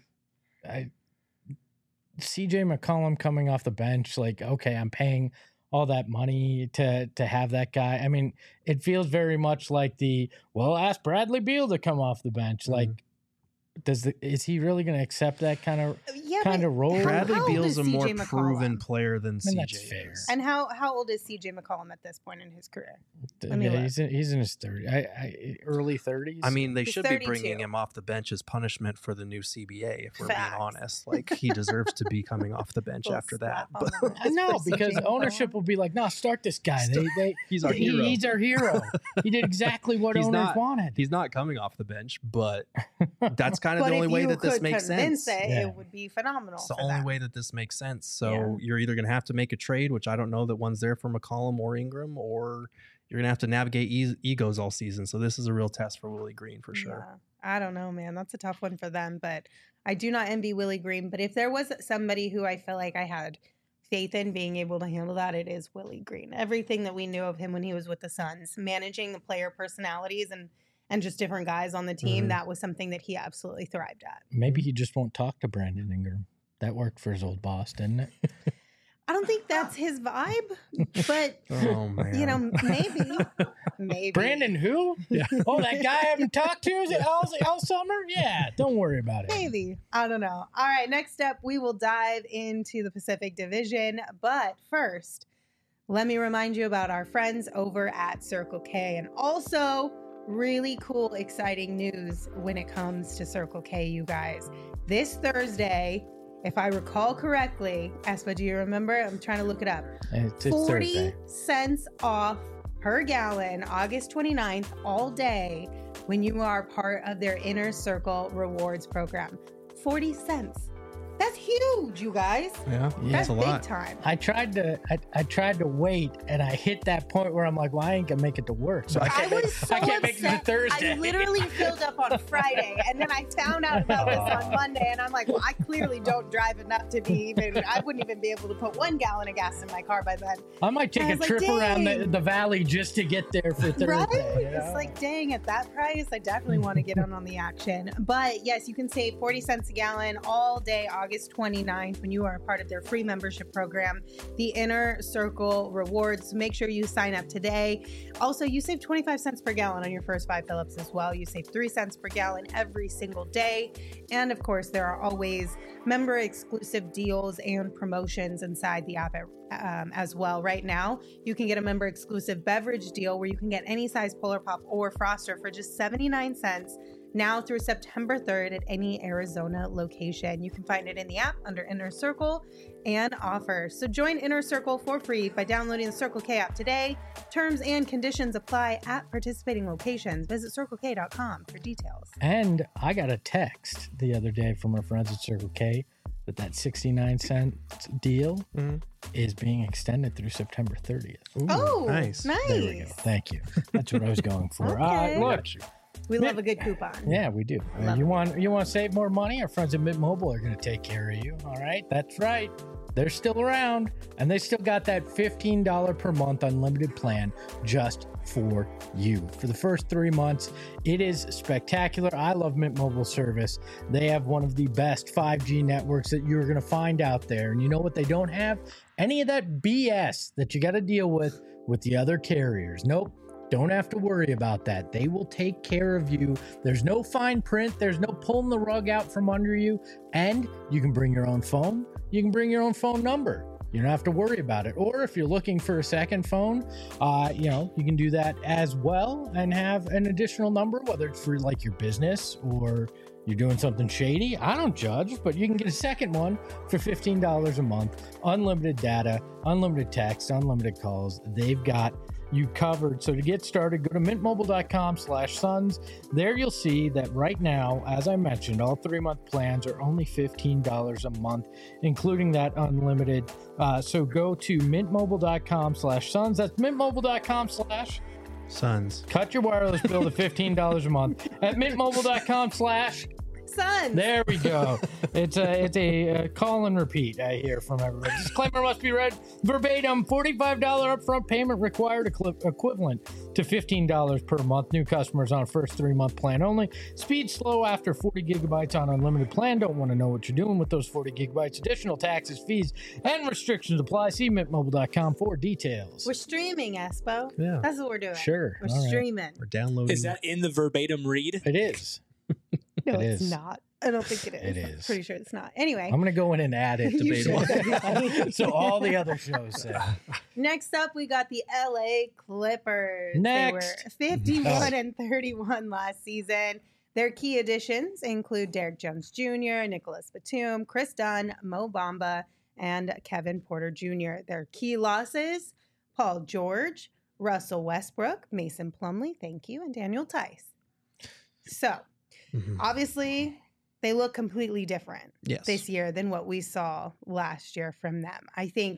CJ McCollum coming off the bench, like, okay, I'm paying all that money to have that guy. I mean, it feels very much like ask Bradley Beal to come off the bench. Like, is he really going to accept that kind of role? Bradley Beal's a more CJ proven player than CJ. That's fair. is. And how old is CJ McCollum at this point in his career? He's in his 30s, early 30s. I mean, they He's should 32. be bringing him off the bench as punishment for the new CBA, if we're being honest. Like, he deserves to be coming off the bench after that. But I know, because ownership will be like, no, start this guy. He's our hero. He's our hero. He did exactly what owners wanted. He's not coming off the bench, but that's kind of the only way that this makes sense. It would be phenomenal. It's the only way that this makes sense. So you're either going to have to make a trade, which I don't know that one's there for McCollum or Ingram, or you're going to have to navigate egos all season. So this is a real test for Willie Green for sure. Yeah. I don't know, man. That's a tough one for them, but I do not envy Willie Green. But if there was somebody who I feel like I had faith in being able to handle that, it is Willie Green. Everything that we knew of him when he was with the Suns, managing the player personalities and just different guys on the team, that was something that he absolutely thrived at. Maybe he just won't talk to Brandon Ingram. That worked for his old boss, didn't it? I don't think that's his vibe, but Oh man. Maybe. Brandon who? Yeah. Oh, that guy I haven't talked to is it all summer? Yeah, don't worry about it. Maybe. I don't know. All right, next up, we will dive into the Pacific Division. But first, let me remind you about our friends over at Circle K, and also really cool, exciting news when it comes to Circle K, you guys. This Thursday, if I recall correctly, Espa, do you remember? I'm trying to look it up. It's 40 Thursday. cents off per gallon, August 29th, all day, when you are part of their Inner Circle Rewards program. 40 cents. That's huge, you guys. Yeah, That's that's a big lot. time. I tried to wait, and I hit that point where I'm like, well, I ain't gonna make it to work, so I I can't, was make, so I can't make it to upset. Thursday. I literally filled up on Friday, and then I found out about this on Monday, and I'm like, well, I clearly don't drive enough to be even. I wouldn't even be able to put 1 gallon of gas in my car by then. I might take I a was like, trip around dang. the valley just to get there for Thursday. Right? you know? It's like, dang, at that price, I definitely want to get on the action. But yes, you can save 40 cents a gallon all day, August 29th, when you are a part of their free membership program, the Inner Circle Rewards. Make sure you sign up today. Also, you save 25 cents per gallon on your first 5 fill-ups as well. You save 3 cents per gallon every single day. And of course, there are always member exclusive deals and promotions inside the app as well. Right now, you can get a member exclusive beverage deal where you can get any size Polar Pop or Froster for just 79 cents now through September 3rd at any Arizona location. You can find it in the app under Inner Circle and offers. So join Inner Circle for free by downloading the Circle K app today. Terms and conditions apply at participating locations. Visit CircleK.com for details. And I got a text the other day from our friends at Circle K that 69-cent deal is being extended through September 30th. Ooh, Oh, nice. There we go. Thank you. That's what I was going for. Okay. Look, We love a good coupon. yeah, we do. Love You want to save more money? Our friends at Mint Mobile are going to take care of you. All right, that's right. They're still around, and they still got that $15 per month unlimited plan just for you. For the first 3 months, it is spectacular. I love Mint Mobile service. They have one of the best 5G networks that you're going to find out there. And you know what they don't have? Any of that BS that you got to deal with the other carriers. Nope. Don't have to worry about that. They will take care of you. There's no fine print. There's no pulling the rug out from under you. And you can bring your own phone. You can bring your own phone number. You don't have to worry about it. Or if you're looking for a second phone, you can do that as well and have an additional number, whether it's for like your business or you're doing something shady. I don't judge, but you can get a second one for $15 a month. Unlimited data, unlimited text, unlimited calls. They've got you covered. So to get started, go to mintmobile.com/sons. There you'll see that right now, as I mentioned, all 3-month plans are only $15 a month, including that unlimited. So go to mintmobile.com/sons. That's mintmobile.com/ Sons. cut your wireless bill to $15 a month at mintmobile.com/ Sons. There we go. It's a call and repeat I hear from everybody. Disclaimer must be read verbatim. $45 upfront payment required, equivalent to $15 per month. New customers on first 3-month plan only. Speed slow after 40 gigabytes on unlimited plan. Don't want to know what you're doing with those 40 gigabytes. Additional taxes, fees, and restrictions apply. See mintmobile.com for details. We're streaming, Espo. Yeah. That's what we're doing. Sure. We're All right. streaming. We're downloading. Is that in the verbatim read? It is. No, It it's is. not. I don't think it is. It I'm is. pretty sure it's not. Anyway. I'm going to go in and add it. You should. Debatable. So all the other shows say. Next up, we got the LA Clippers. Next. They were 51 and 31 last season. Their key additions include Derek Jones Jr., Nicholas Batum, Chris Dunn, Mo Bamba, and Kevin Porter Jr. Their key losses, Paul George, Russell Westbrook, Mason Plumlee, thank you, and Daniel Tice. So, obviously, they look completely different Yes. this year than what we saw last year from them. I think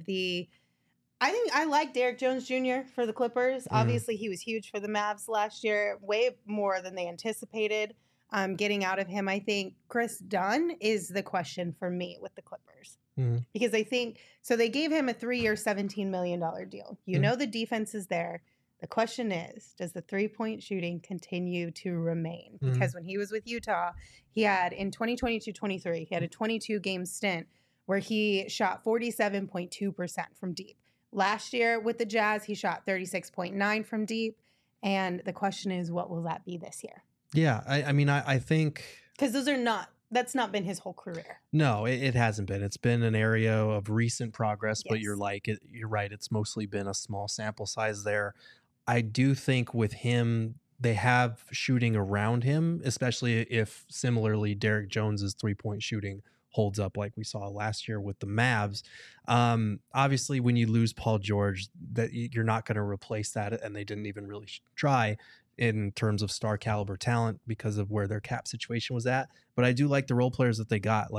I like Derek Jones Jr. for the Clippers. Obviously, he was huge for the Mavs last year, way more than they anticipated getting out of him. I think Chris Dunn is the question for me with the Clippers. Because I think, so they gave him a 3-year, $17 million deal. You know the defense is there. The question is, does the 3-point shooting continue to remain? Because when he was with Utah, he had, in 2022-23, he had a 22-game stint where he shot 47.2% from deep. Last year with the Jazz, he shot 36.9% from deep. And the question is, what will that be this year? Yeah, I mean, I think... Because that's not been his whole career. No, it hasn't been. It's been an area of recent progress, but Yes. you're right. It's mostly been a small sample size there. I do think with him, they have shooting around him, especially if similarly Derek Jones's 3-point shooting holds up like we saw last year with the Mavs. Obviously, when you lose Paul George, that you're not going to replace that, and they didn't even really try in terms of star caliber talent because of where their cap situation was at. But I do like the role players that they got, like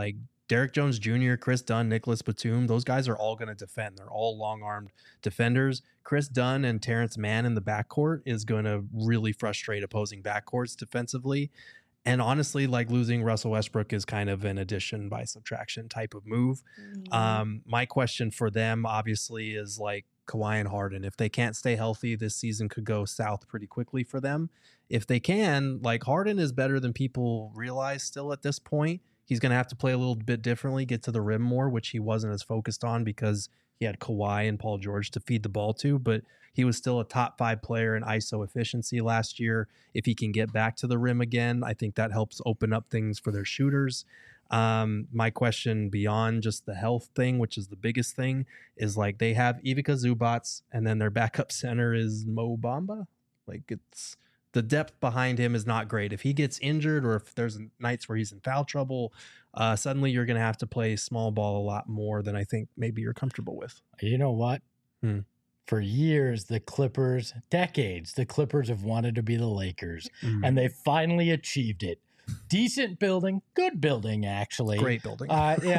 Derek Jones Jr., Chris Dunn, Nicholas Batum, those guys are all going to defend. They're all long-armed defenders. Chris Dunn and Terrence Mann in the backcourt is going to really frustrate opposing backcourts defensively. And honestly, like losing Russell Westbrook is kind of an addition by subtraction type of move. My question for them obviously is like Kawhi and Harden. If they can't stay healthy, this season could go south pretty quickly for them. If they can, like Harden is better than people realize still at this point. He's going to have to play a little bit differently, get to the rim more, which he wasn't as focused on because he had Kawhi and Paul George to feed the ball to, but he was still a top 5 player in ISO efficiency last year. If he can get back to the rim again, I think that helps open up things for their shooters. My question beyond just the health thing, which is the biggest thing, is like they have Ivica Zubac and then their backup center is Mo Bamba. Like it's the depth behind him is not great. If he gets injured or if there's nights where he's in foul trouble, suddenly you're going to have to play small ball a lot more than I think maybe you're comfortable with. You know what? For years, the Clippers, decades, the Clippers have wanted to be the Lakers, and they finally achieved it. Decent building, good building, actually. Great building.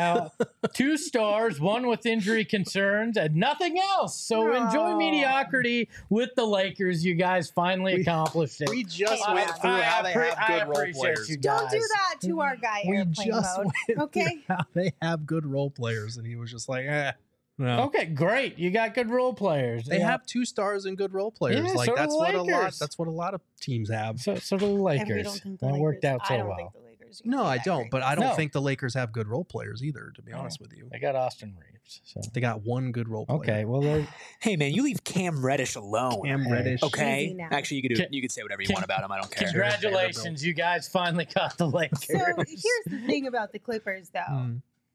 2 stars, 1 with injury concerns, and nothing else. So enjoy mediocrity with the Lakers. You guys finally accomplished it. We just went through how they have good role players. Don't do that to our guy airplane mode. Okay. How they have good role players, and he was just like, no. Okay, great. You got good role players. They have 2 stars and good role players. Yeah, like so that's do what Lakers. that's what a lot of teams have. So do the Lakers. And we don't think the that Lakers, worked out so I don't well. think the Lakers No, I don't. great. But I don't No. think the Lakers have good role players either, to be honest with you. They got Austin Reeves. So. They got 1 good role player. Okay, well, they're Hey man, you leave Cam Reddish alone. Cam Reddish. Okay. Easy now. Actually, you could say whatever you want about him. I don't care. congratulations, you guys finally got the Lakers. So here's the thing about the Clippers, though.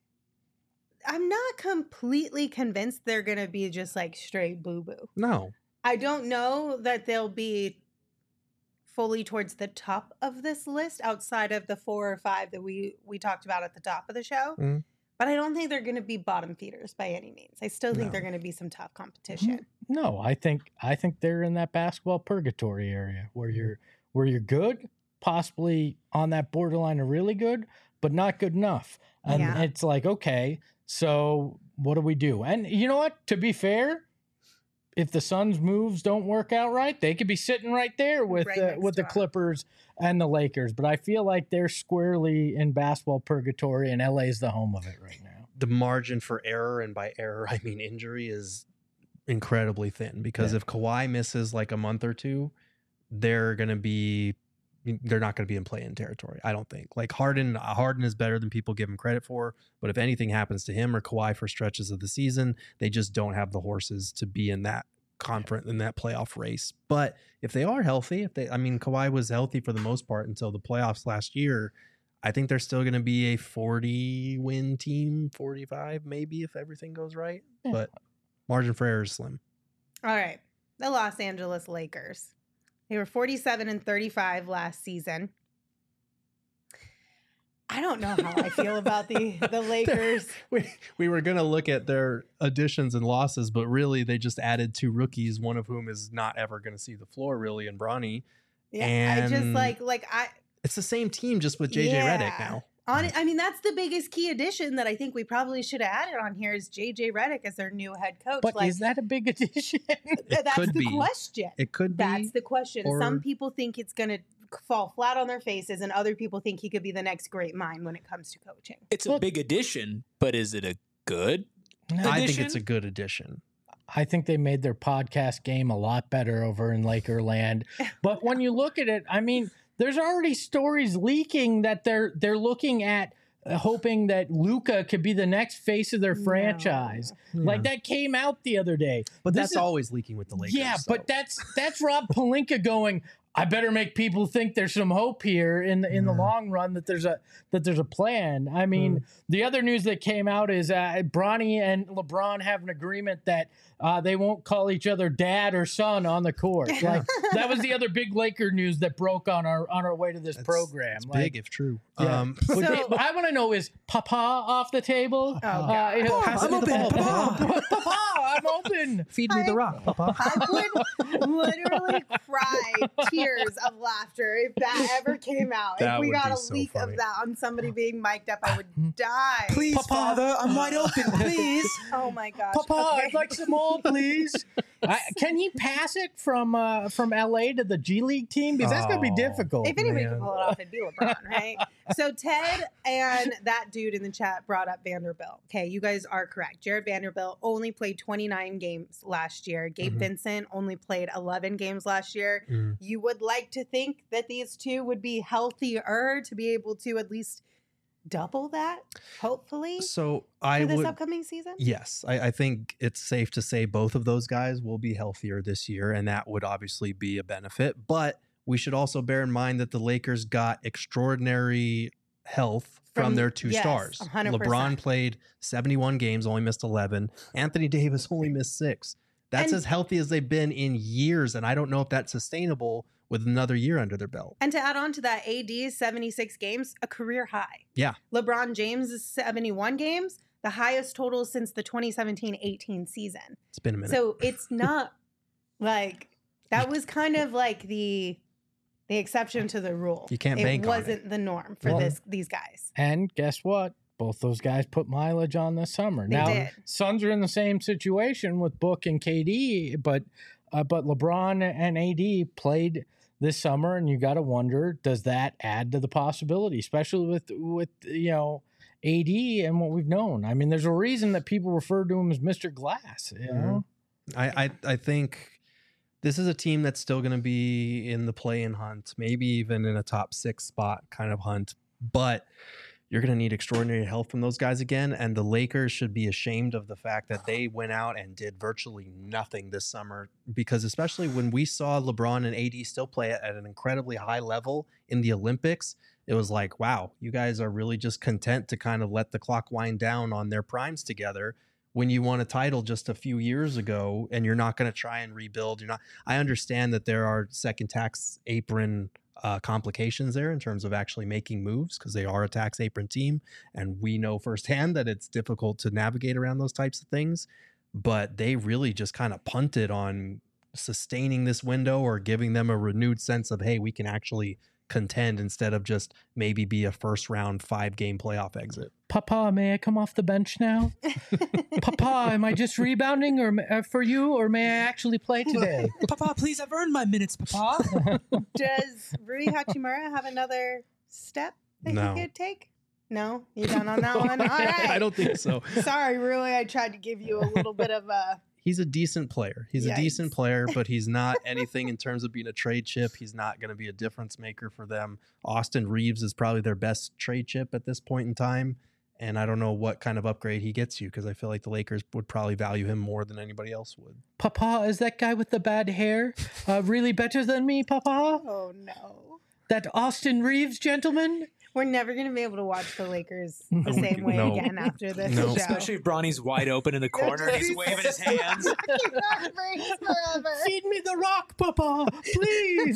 I'm not completely convinced they're going to be just like straight boo-boo. No. I don't know that they'll be fully towards the top of this list outside of the 4 or 5 that we talked about at the top of the show. But I don't think they're going to be bottom feeders by any means. I still think they're going to be some tough competition. No, I think they're in that basketball purgatory area where you're good, possibly on that borderline of really good, but not good enough. And it's like, okay, so what do we do? And you know what? To be fair, if the Suns' moves don't work out right, they could be sitting right there with the Clippers and the Lakers. But I feel like they're squarely in basketball purgatory, and LA is the home of it right now. The margin for error, and by error I mean injury, is incredibly thin because if Kawhi misses like a month or 2, they're not going to be in play-in territory, I don't think. Like Harden is better than people give him credit for, but if anything happens to him or Kawhi for stretches of the season, they just don't have the horses to be in that conference, in that playoff race. But if they are healthy, Kawhi was healthy for the most part until the playoffs last year, I think they're still going to be a 40-win team, 45 maybe if everything goes right. Yeah. But margin for error is slim. All right. The Los Angeles Lakers. They were 47-35 last season. I don't know how I feel about the Lakers. We were going to look at their additions and losses, but really they just added 2 rookies, one of whom is not ever going to see the floor really, in Bronny. Yeah, and I just it's the same team just with JJ Redick now. That's the biggest key addition that I think we probably should have added on here is JJ Redick as their new head coach. But is that a big addition? That's the question. It could be. That's the question. Some people think it's going to fall flat on their faces, and other people think he could be the next great mind when it comes to coaching. It's a big addition, but is it a good addition? I think it's a good addition. I think they made their podcast game a lot better over in Lakerland. But when you look at it, there's already stories leaking that they're looking at hoping that Luka could be the next face of their franchise. Like that came out the other day. But that's always leaking with the Lakers. Yeah, but that's Rob Pelinka going, I better make people think there's some hope here in the long run, that there's a plan. The other news that came out is Bronny and LeBron have an agreement that they won't call each other dad or son on the court. Like that was the other big Laker news that broke on our way to this program. It's big if true. Yeah. What I want to know is Papa off the table. I'm open. Papa, I'm open. Feed me the rock, Papa. I would literally cry tears years of laughter if that ever came out. That if we would got be a so leak funny. of that on somebody being mic'd up, I would die. Please, Papa. Father, I'm wide open. Please. Oh my gosh. Papa, Okay. I'd like some more, please. Can he pass it from LA to the G League team? Because that's going to be Oh. difficult. If anybody man. can pull it off, it'd be LeBron, right? So Ted and that dude in the chat brought up Vanderbilt. Okay, you guys are correct. Jared Vanderbilt only played 29 games last year. Gabe Mhm. Vincent only played 11 games last year. Mm. You would like to think that these two would be healthier to be able to at least double that, hopefully, So for I this would. upcoming season. Yes, I think it's safe to say both of those guys will be healthier this year, and that would obviously be a benefit. But we should also bear in mind that the Lakers got extraordinary health from From- their two yes, stars. 100%. LeBron played 71 games, only missed 11. Anthony Davis only missed 6. That's And- as healthy as they've been in years, and I don't know if that's sustainable with another year under their belt. And to add on to that, AD's 76 games, a career high. Yeah. LeBron James' 71 games, the highest total since the 2017-18 season. It's been a minute. So it's not like that was kind of like the exception to the rule. You can't it bank on it. wasn't the norm for Well- these guys. And guess what? Both those guys put mileage on this summer. They Now, did. Suns are in the same situation with Book and KD, but LeBron and AD played this summer, and you got to wonder, does that add to the possibility, especially with AD and what we've known? I mean, there's a reason that people refer to him as Mr. Glass. You know, I think this is a team that's still going to be in the play-in hunt, maybe even in a top 6 spot kind of hunt, but you're going to need extraordinary help from those guys again. And the Lakers should be ashamed of the fact that they went out and did virtually nothing this summer, because especially when we saw LeBron and AD still play at an incredibly high level in the Olympics, it was like, wow, you guys are really just content to kind of let the clock wind down on their primes together when you won a title just a few years ago, and you're not going to try and rebuild. You're not. I understand that there are second tax apron complications there in terms of actually making moves, because they are a tax apron team, and we know firsthand that it's difficult to navigate around those types of things. But they really just kind of punted on sustaining this window or giving them a renewed sense of, hey, we can actually contend instead of just maybe be a first round 5-game playoff exit. Papa, may I come off the bench now? Papa, am I just rebounding for you, or may I actually play today? Papa, please, I've earned my minutes, Papa. Does Rui Hachimura have another step that No. he could take? No? You done on that one? All right. I don't think so. Sorry, Rui. I tried to give you a little bit of a... He's a decent player. He's a Yikes. decent player, but he's not anything in terms of being a trade chip. He's not going to be a difference maker for them. Austin Reeves is probably their best trade chip at this point in time. And I don't know what kind of upgrade he gets you, because I feel like the Lakers would probably value him more than anybody else would. Papa, is that guy with the bad hair really better than me, Papa? Oh, no. That Austin Reeves gentleman? We're never going to be able to watch the Lakers the same way No. again after this No. show. Especially if Bronny's wide open in the corner and he's waving his hands. Forever. Feed me the rock, Papa, please.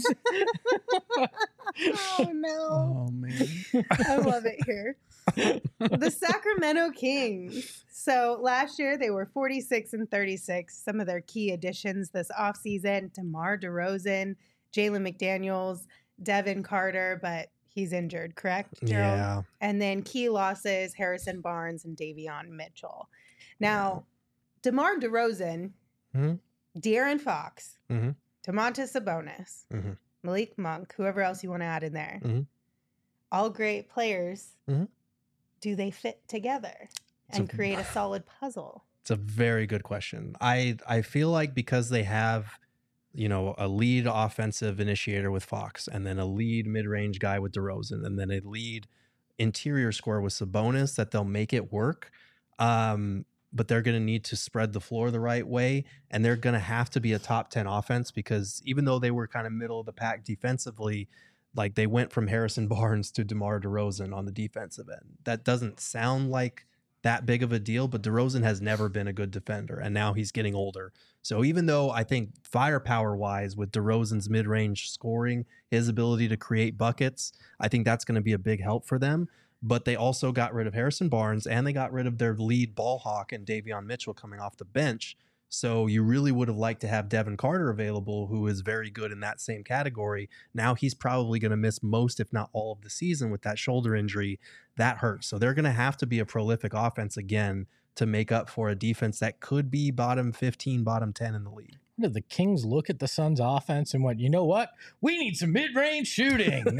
Oh, no. man. I love it here. The Sacramento Kings. So last year they were 46-36. Some of their key additions this offseason: DeMar DeRozan, Jalen McDaniels, Devin Carter, but he's injured, correct, Gerald? Yeah. And then key losses: Harrison Barnes and Davion Mitchell. Now, DeMar DeRozan, Mhm. De'Aaron Fox, Mhm. Domantas Sabonis, Mhm. Malik Monk, whoever else you want to add in there. Mhm. All great players. Mhm. Do they fit together and create a solid puzzle? It's a very good question. I feel like because they have, a lead offensive initiator with Fox, and then a lead mid-range guy with DeRozan, and then a lead interior scorer with Sabonis, that they'll make it work. But they're going to need to spread the floor the right way, and they're going to have to be a top 10 offense, because even though they were kind of middle of the pack defensively, like they went from Harrison Barnes to DeMar DeRozan on the defensive end. That doesn't sound like that big of a deal, but DeRozan has never been a good defender, and now he's getting older. So even though I think firepower-wise with DeRozan's mid-range scoring, his ability to create buckets, I think that's going to be a big help for them. But they also got rid of Harrison Barnes, and they got rid of their lead ball hawk and Davion Mitchell coming off the bench. So you really would have liked to have Devin Carter available, who is very good in that same category. Now he's probably going to miss most, if not all, of the season with that shoulder injury. That hurts. So they're going to have to be a prolific offense again to make up for a defense that could be bottom 15, bottom 10 in the league. Did the Kings look at the Suns offense and went, you know what? We need some mid-range shooting.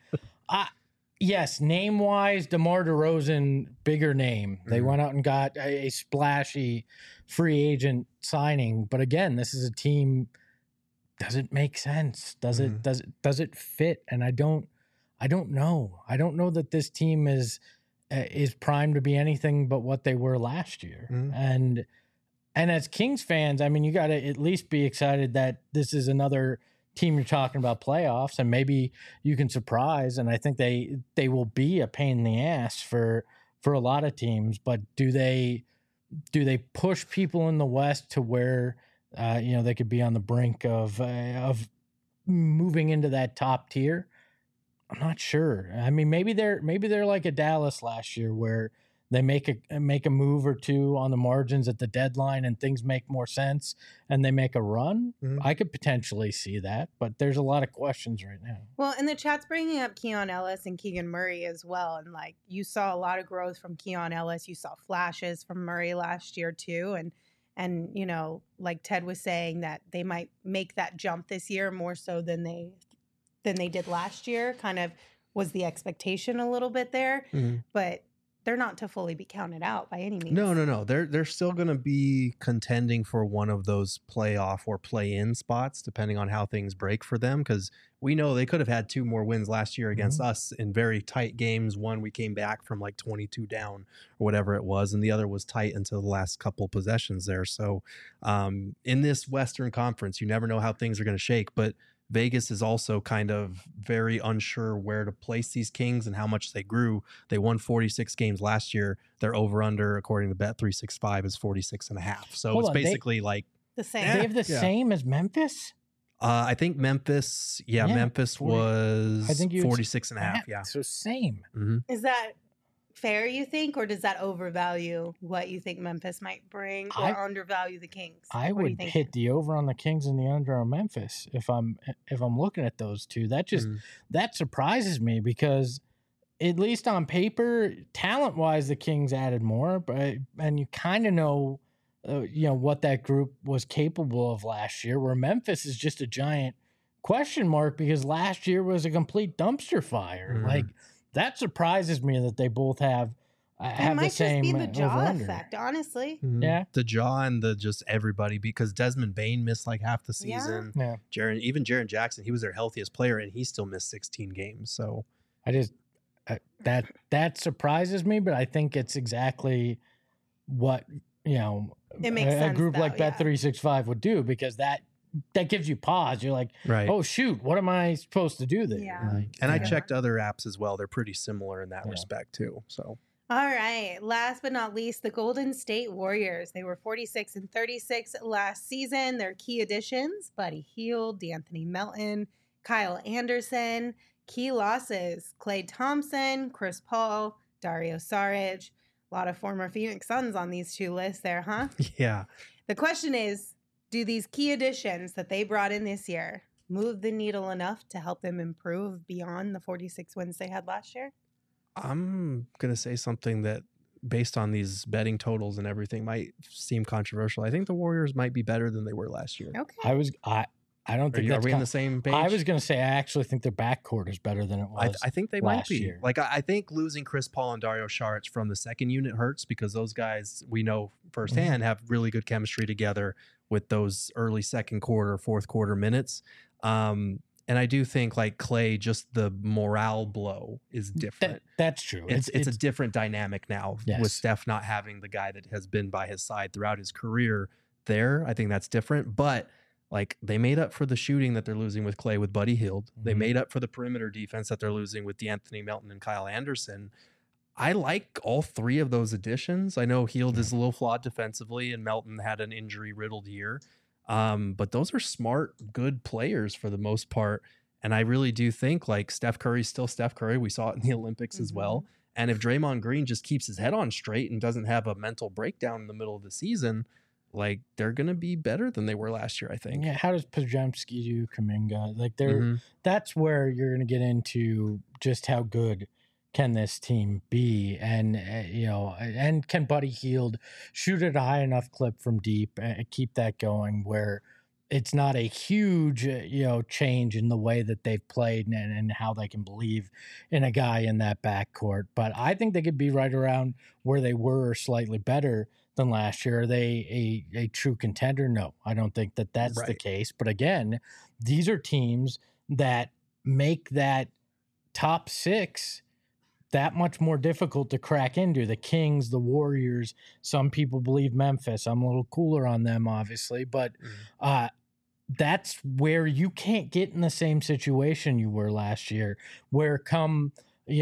Yes, name-wise, DeMar DeRozan, bigger name. They went out and got a splashy free agent signing. But again, this is a team. Does it make sense? Does it fit? And I don't know. I don't know that this team is primed to be anything but what they were last year. And as Kings fans, I mean, you got to at least be excited that this is another team you're talking about playoffs, and maybe you can surprise. And I think they will be a pain in the ass for a lot of teams. But do they push people in the West to where they could be on the brink of moving into that top tier? I'm not sure. I mean, maybe they're like a Dallas last year where they make a move or two on the margins at the deadline and things make more sense and they make a run. I could potentially see that, but there's a lot of questions right now. Well, and the chat's bringing up Keon Ellis and Keegan Murray as well. And you saw a lot of growth from Keon Ellis. You saw flashes from Murray last year too. And like Ted was saying, that they might make that jump this year more so than they did last year. Kind of was the expectation a little bit there, but they're not to fully be counted out by any means. No. They're still going to be contending for one of those playoff or play-in spots, depending on how things break for them. Because we know they could have had 2 more wins last year against us in very tight games. One, we came back from 22 down or whatever it was, and the other was tight until the last couple possessions there. So in this Western Conference, you never know how things are going to shake, but Vegas is also kind of very unsure where to place these Kings and how much they grew. They won 46 games last year. Their over-under, according to Bet365, is 46.5. So it's basically the same. They have the same as Memphis? I think Memphis, Memphis 40, was I think 46.5. Yeah. So same. Is that fair, you think, or does that overvalue what you think Memphis might bring, or undervalue the Kings? I would hit the over on the Kings and the under on Memphis if I'm looking at those two. That just that surprises me because at least on paper, talent wise, the Kings added more, and you kind of know what that group was capable of last year, where Memphis is just a giant question mark because last year was a complete dumpster fire. That surprises me that they both have the same. It might just be the jaw effect, honestly. Yeah, the jaw and the just everybody, because Desmond Bane missed half the season. Yeah. Jaren Jackson, he was their healthiest player, and he still missed 16 games. So I just that surprises me, but I think it's exactly what it makes sense, a group like Bet365 would do, because that gives you pause. You're like, right. Oh shoot, what am I supposed to do there? Yeah. And I checked other apps as well. They're pretty similar in that respect too. So all right. Last but not least, the Golden State Warriors. They were 46-36 last season. Their key additions: Buddy Hield, D'Anthony Melton, Kyle Anderson. Key losses: Klay Thompson, Chris Paul, Dario Saric. A lot of former Phoenix Suns on these 2 lists there, huh? Yeah. The question is, do these key additions that they brought in this year move the needle enough to help them improve beyond the 46 wins they had last year? I'm going to say something that, based on these betting totals and everything, might seem controversial. I think the Warriors might be better than they were last year. Okay. I don't think are we on the same page? I was going to say I actually think their backcourt is better than it was. I think they might be. Year. I think losing Chris Paul and Dario Saric from the second unit hurts, because those guys, we know firsthand, have really good chemistry together with those early second quarter, fourth quarter minutes. And I do think Klay, just the morale blow is different. That's true. It's a different dynamic now with Steph not having the guy that has been by his side throughout his career there. I think that's different, but they made up for the shooting that they're losing with Klay with Buddy Hield. They made up for the perimeter defense that they're losing with D'Anthony Melton and Kyle Anderson. I like all 3 of those additions. I know Hield is a little flawed defensively, and Melton had an injury-riddled year. But those are smart, good players for the most part. And I really do think Steph Curry's still Steph Curry. We saw it in the Olympics as well. And if Draymond Green just keeps his head on straight and doesn't have a mental breakdown in the middle of the season, like they're going to be better than they were last year, I think. Yeah, how does Podziemski do, Kuminga? Like that's where you're going to get into just how good can this team be, and and can Buddy Hield shoot at a high enough clip from deep and keep that going where it's not a huge change in the way that they've played and how they can believe in a guy in that backcourt. But I think they could be right around where they were or slightly better than last year. Are they a true contender? No, I don't think that's the case. But again, these are teams that make that top 6 that much more difficult to crack into. The Kings, the Warriors, some people believe Memphis. I'm a little cooler on them, obviously, but that's where you can't get in the same situation you were last year, where come,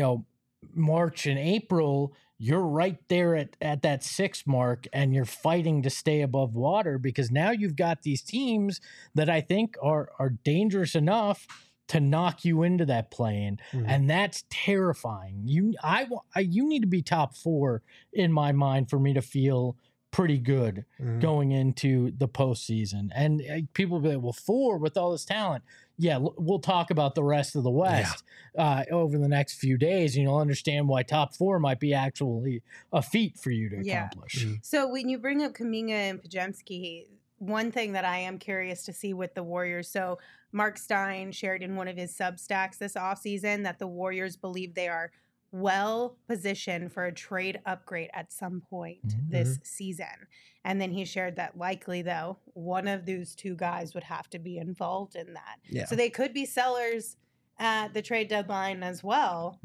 March and April, you're right there at that 6 mark and you're fighting to stay above water, because now you've got these teams that I think are dangerous enough to knock you into that play-in, and that's terrifying. You need to be top 4 in my mind for me to feel pretty good going into the postseason. And people will be like, well, 4 with all this talent. Yeah, we'll talk about the rest of the West over the next few days, and you'll understand why top 4 might be actually a feat for you to accomplish. So when you bring up Kuminga and Podziemski, one thing that I am curious to see with the Warriors, so Mark Stein shared in one of his Substacks this offseason that the Warriors believe they are well positioned for a trade upgrade at some point this season. And then he shared that likely, though, one of those 2 guys would have to be involved in that. Yeah. So they could be sellers at the trade deadline as well.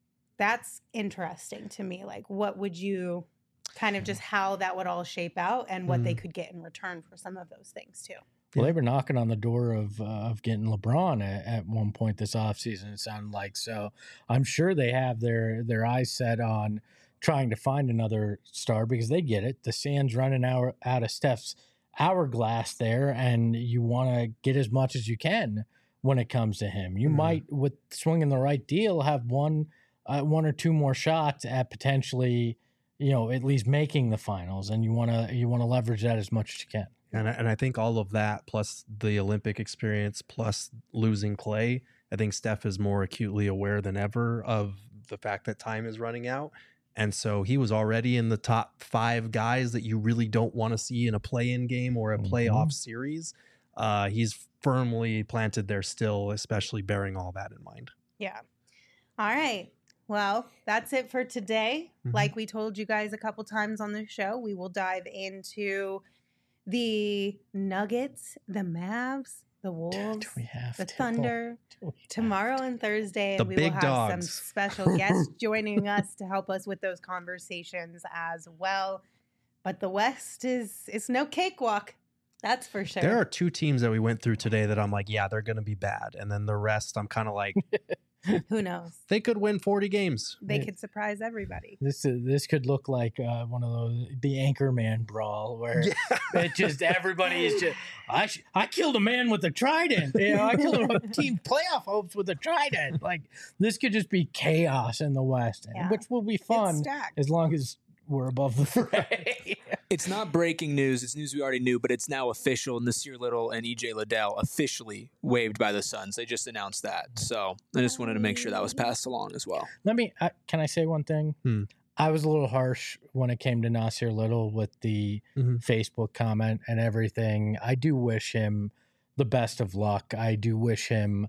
That's interesting to me. Like, what would you kind of just how that would all shape out and what they could get in return for some of those things, too? Well, they were knocking on the door of getting LeBron at one point this offseason, it sounded like. So I'm sure they have their eyes set on trying to find another star, because they get it. The sand's running out of Steph's hourglass there, and you want to get as much as you can when it comes to him. You might, with swinging the right deal, have one or 2 more shots at potentially, at least making the finals, and you want to leverage that as much as you can. And I think all of that, plus the Olympic experience, plus losing Clay, I think Steph is more acutely aware than ever of the fact that time is running out. And so he was already in the top 5 guys that you really don't want to see in a play-in game or a playoff series. He's firmly planted there still, especially bearing all that in mind. Yeah. All right. Well, that's it for today. Like we told you guys a couple times on the show, we will dive into the Nuggets, the Mavs, the Wolves, the Thunder, tomorrow and Thursday. And we will have some special guests joining us to help us with those conversations as well. But the West it's no cakewalk. That's for sure. There are 2 teams that we went through today that I'm like, yeah, they're going to be bad. And then the rest, I'm kind of like, who knows? They could win 40 games. They could surprise everybody. This could look like one of those, the Anchorman brawl, where it just everybody is just I killed a man with a trident. I killed a team playoff hopes with a trident. Like, this could just be chaos in the West, which will be fun as long as we're above the fray. It's not breaking news. It's news we already knew, but it's now official. Nasir Little and EJ Liddell officially waived by the Suns. They just announced that. So I just wanted to make sure that was passed along as well. Can I say one thing? I was a little harsh when it came to Nasir Little with the Facebook comment and everything. I do wish him the best of luck. I do wish him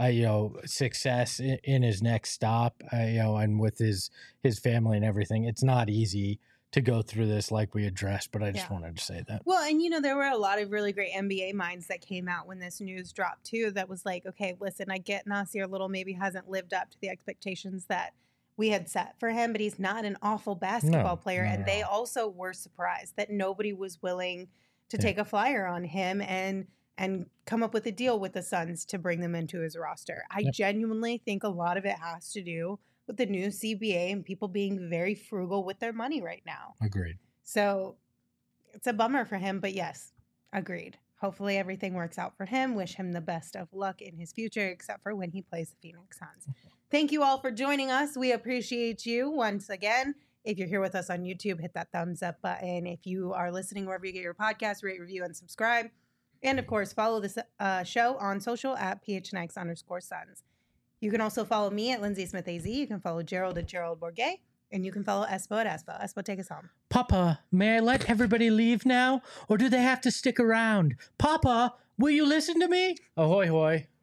success in his next stop, and with his family and everything. It's not easy to go through this like we addressed, but I just wanted to say that. Well, and there were a lot of really great NBA minds that came out when this news dropped too, that was like, okay, listen, I get Nasir Little maybe hasn't lived up to the expectations that we had set for him, but he's not an awful basketball player. And they also were surprised that nobody was willing to take a flyer on him and come up with a deal with the Suns to bring them into his roster. I genuinely think a lot of it has to do with the new CBA and people being very frugal with their money right now. Agreed. So it's a bummer for him, but yes, agreed. Hopefully everything works out for him. Wish him the best of luck in his future, except for when he plays the Phoenix Suns. Thank you all for joining us. We appreciate you once again. If you're here with us on YouTube, hit that thumbs up button. If you are listening wherever you get your podcast, rate, review, and subscribe. And of course, follow this show on social at PHNX_Suns. You can also follow me at Lindsay Smith AZ. You can follow Gerald at Gerald Bourget. And you can follow Espo at Espo. Espo, take us home. Papa, may I let everybody leave now? Or do they have to stick around? Papa, will you listen to me? Ahoy, hoy.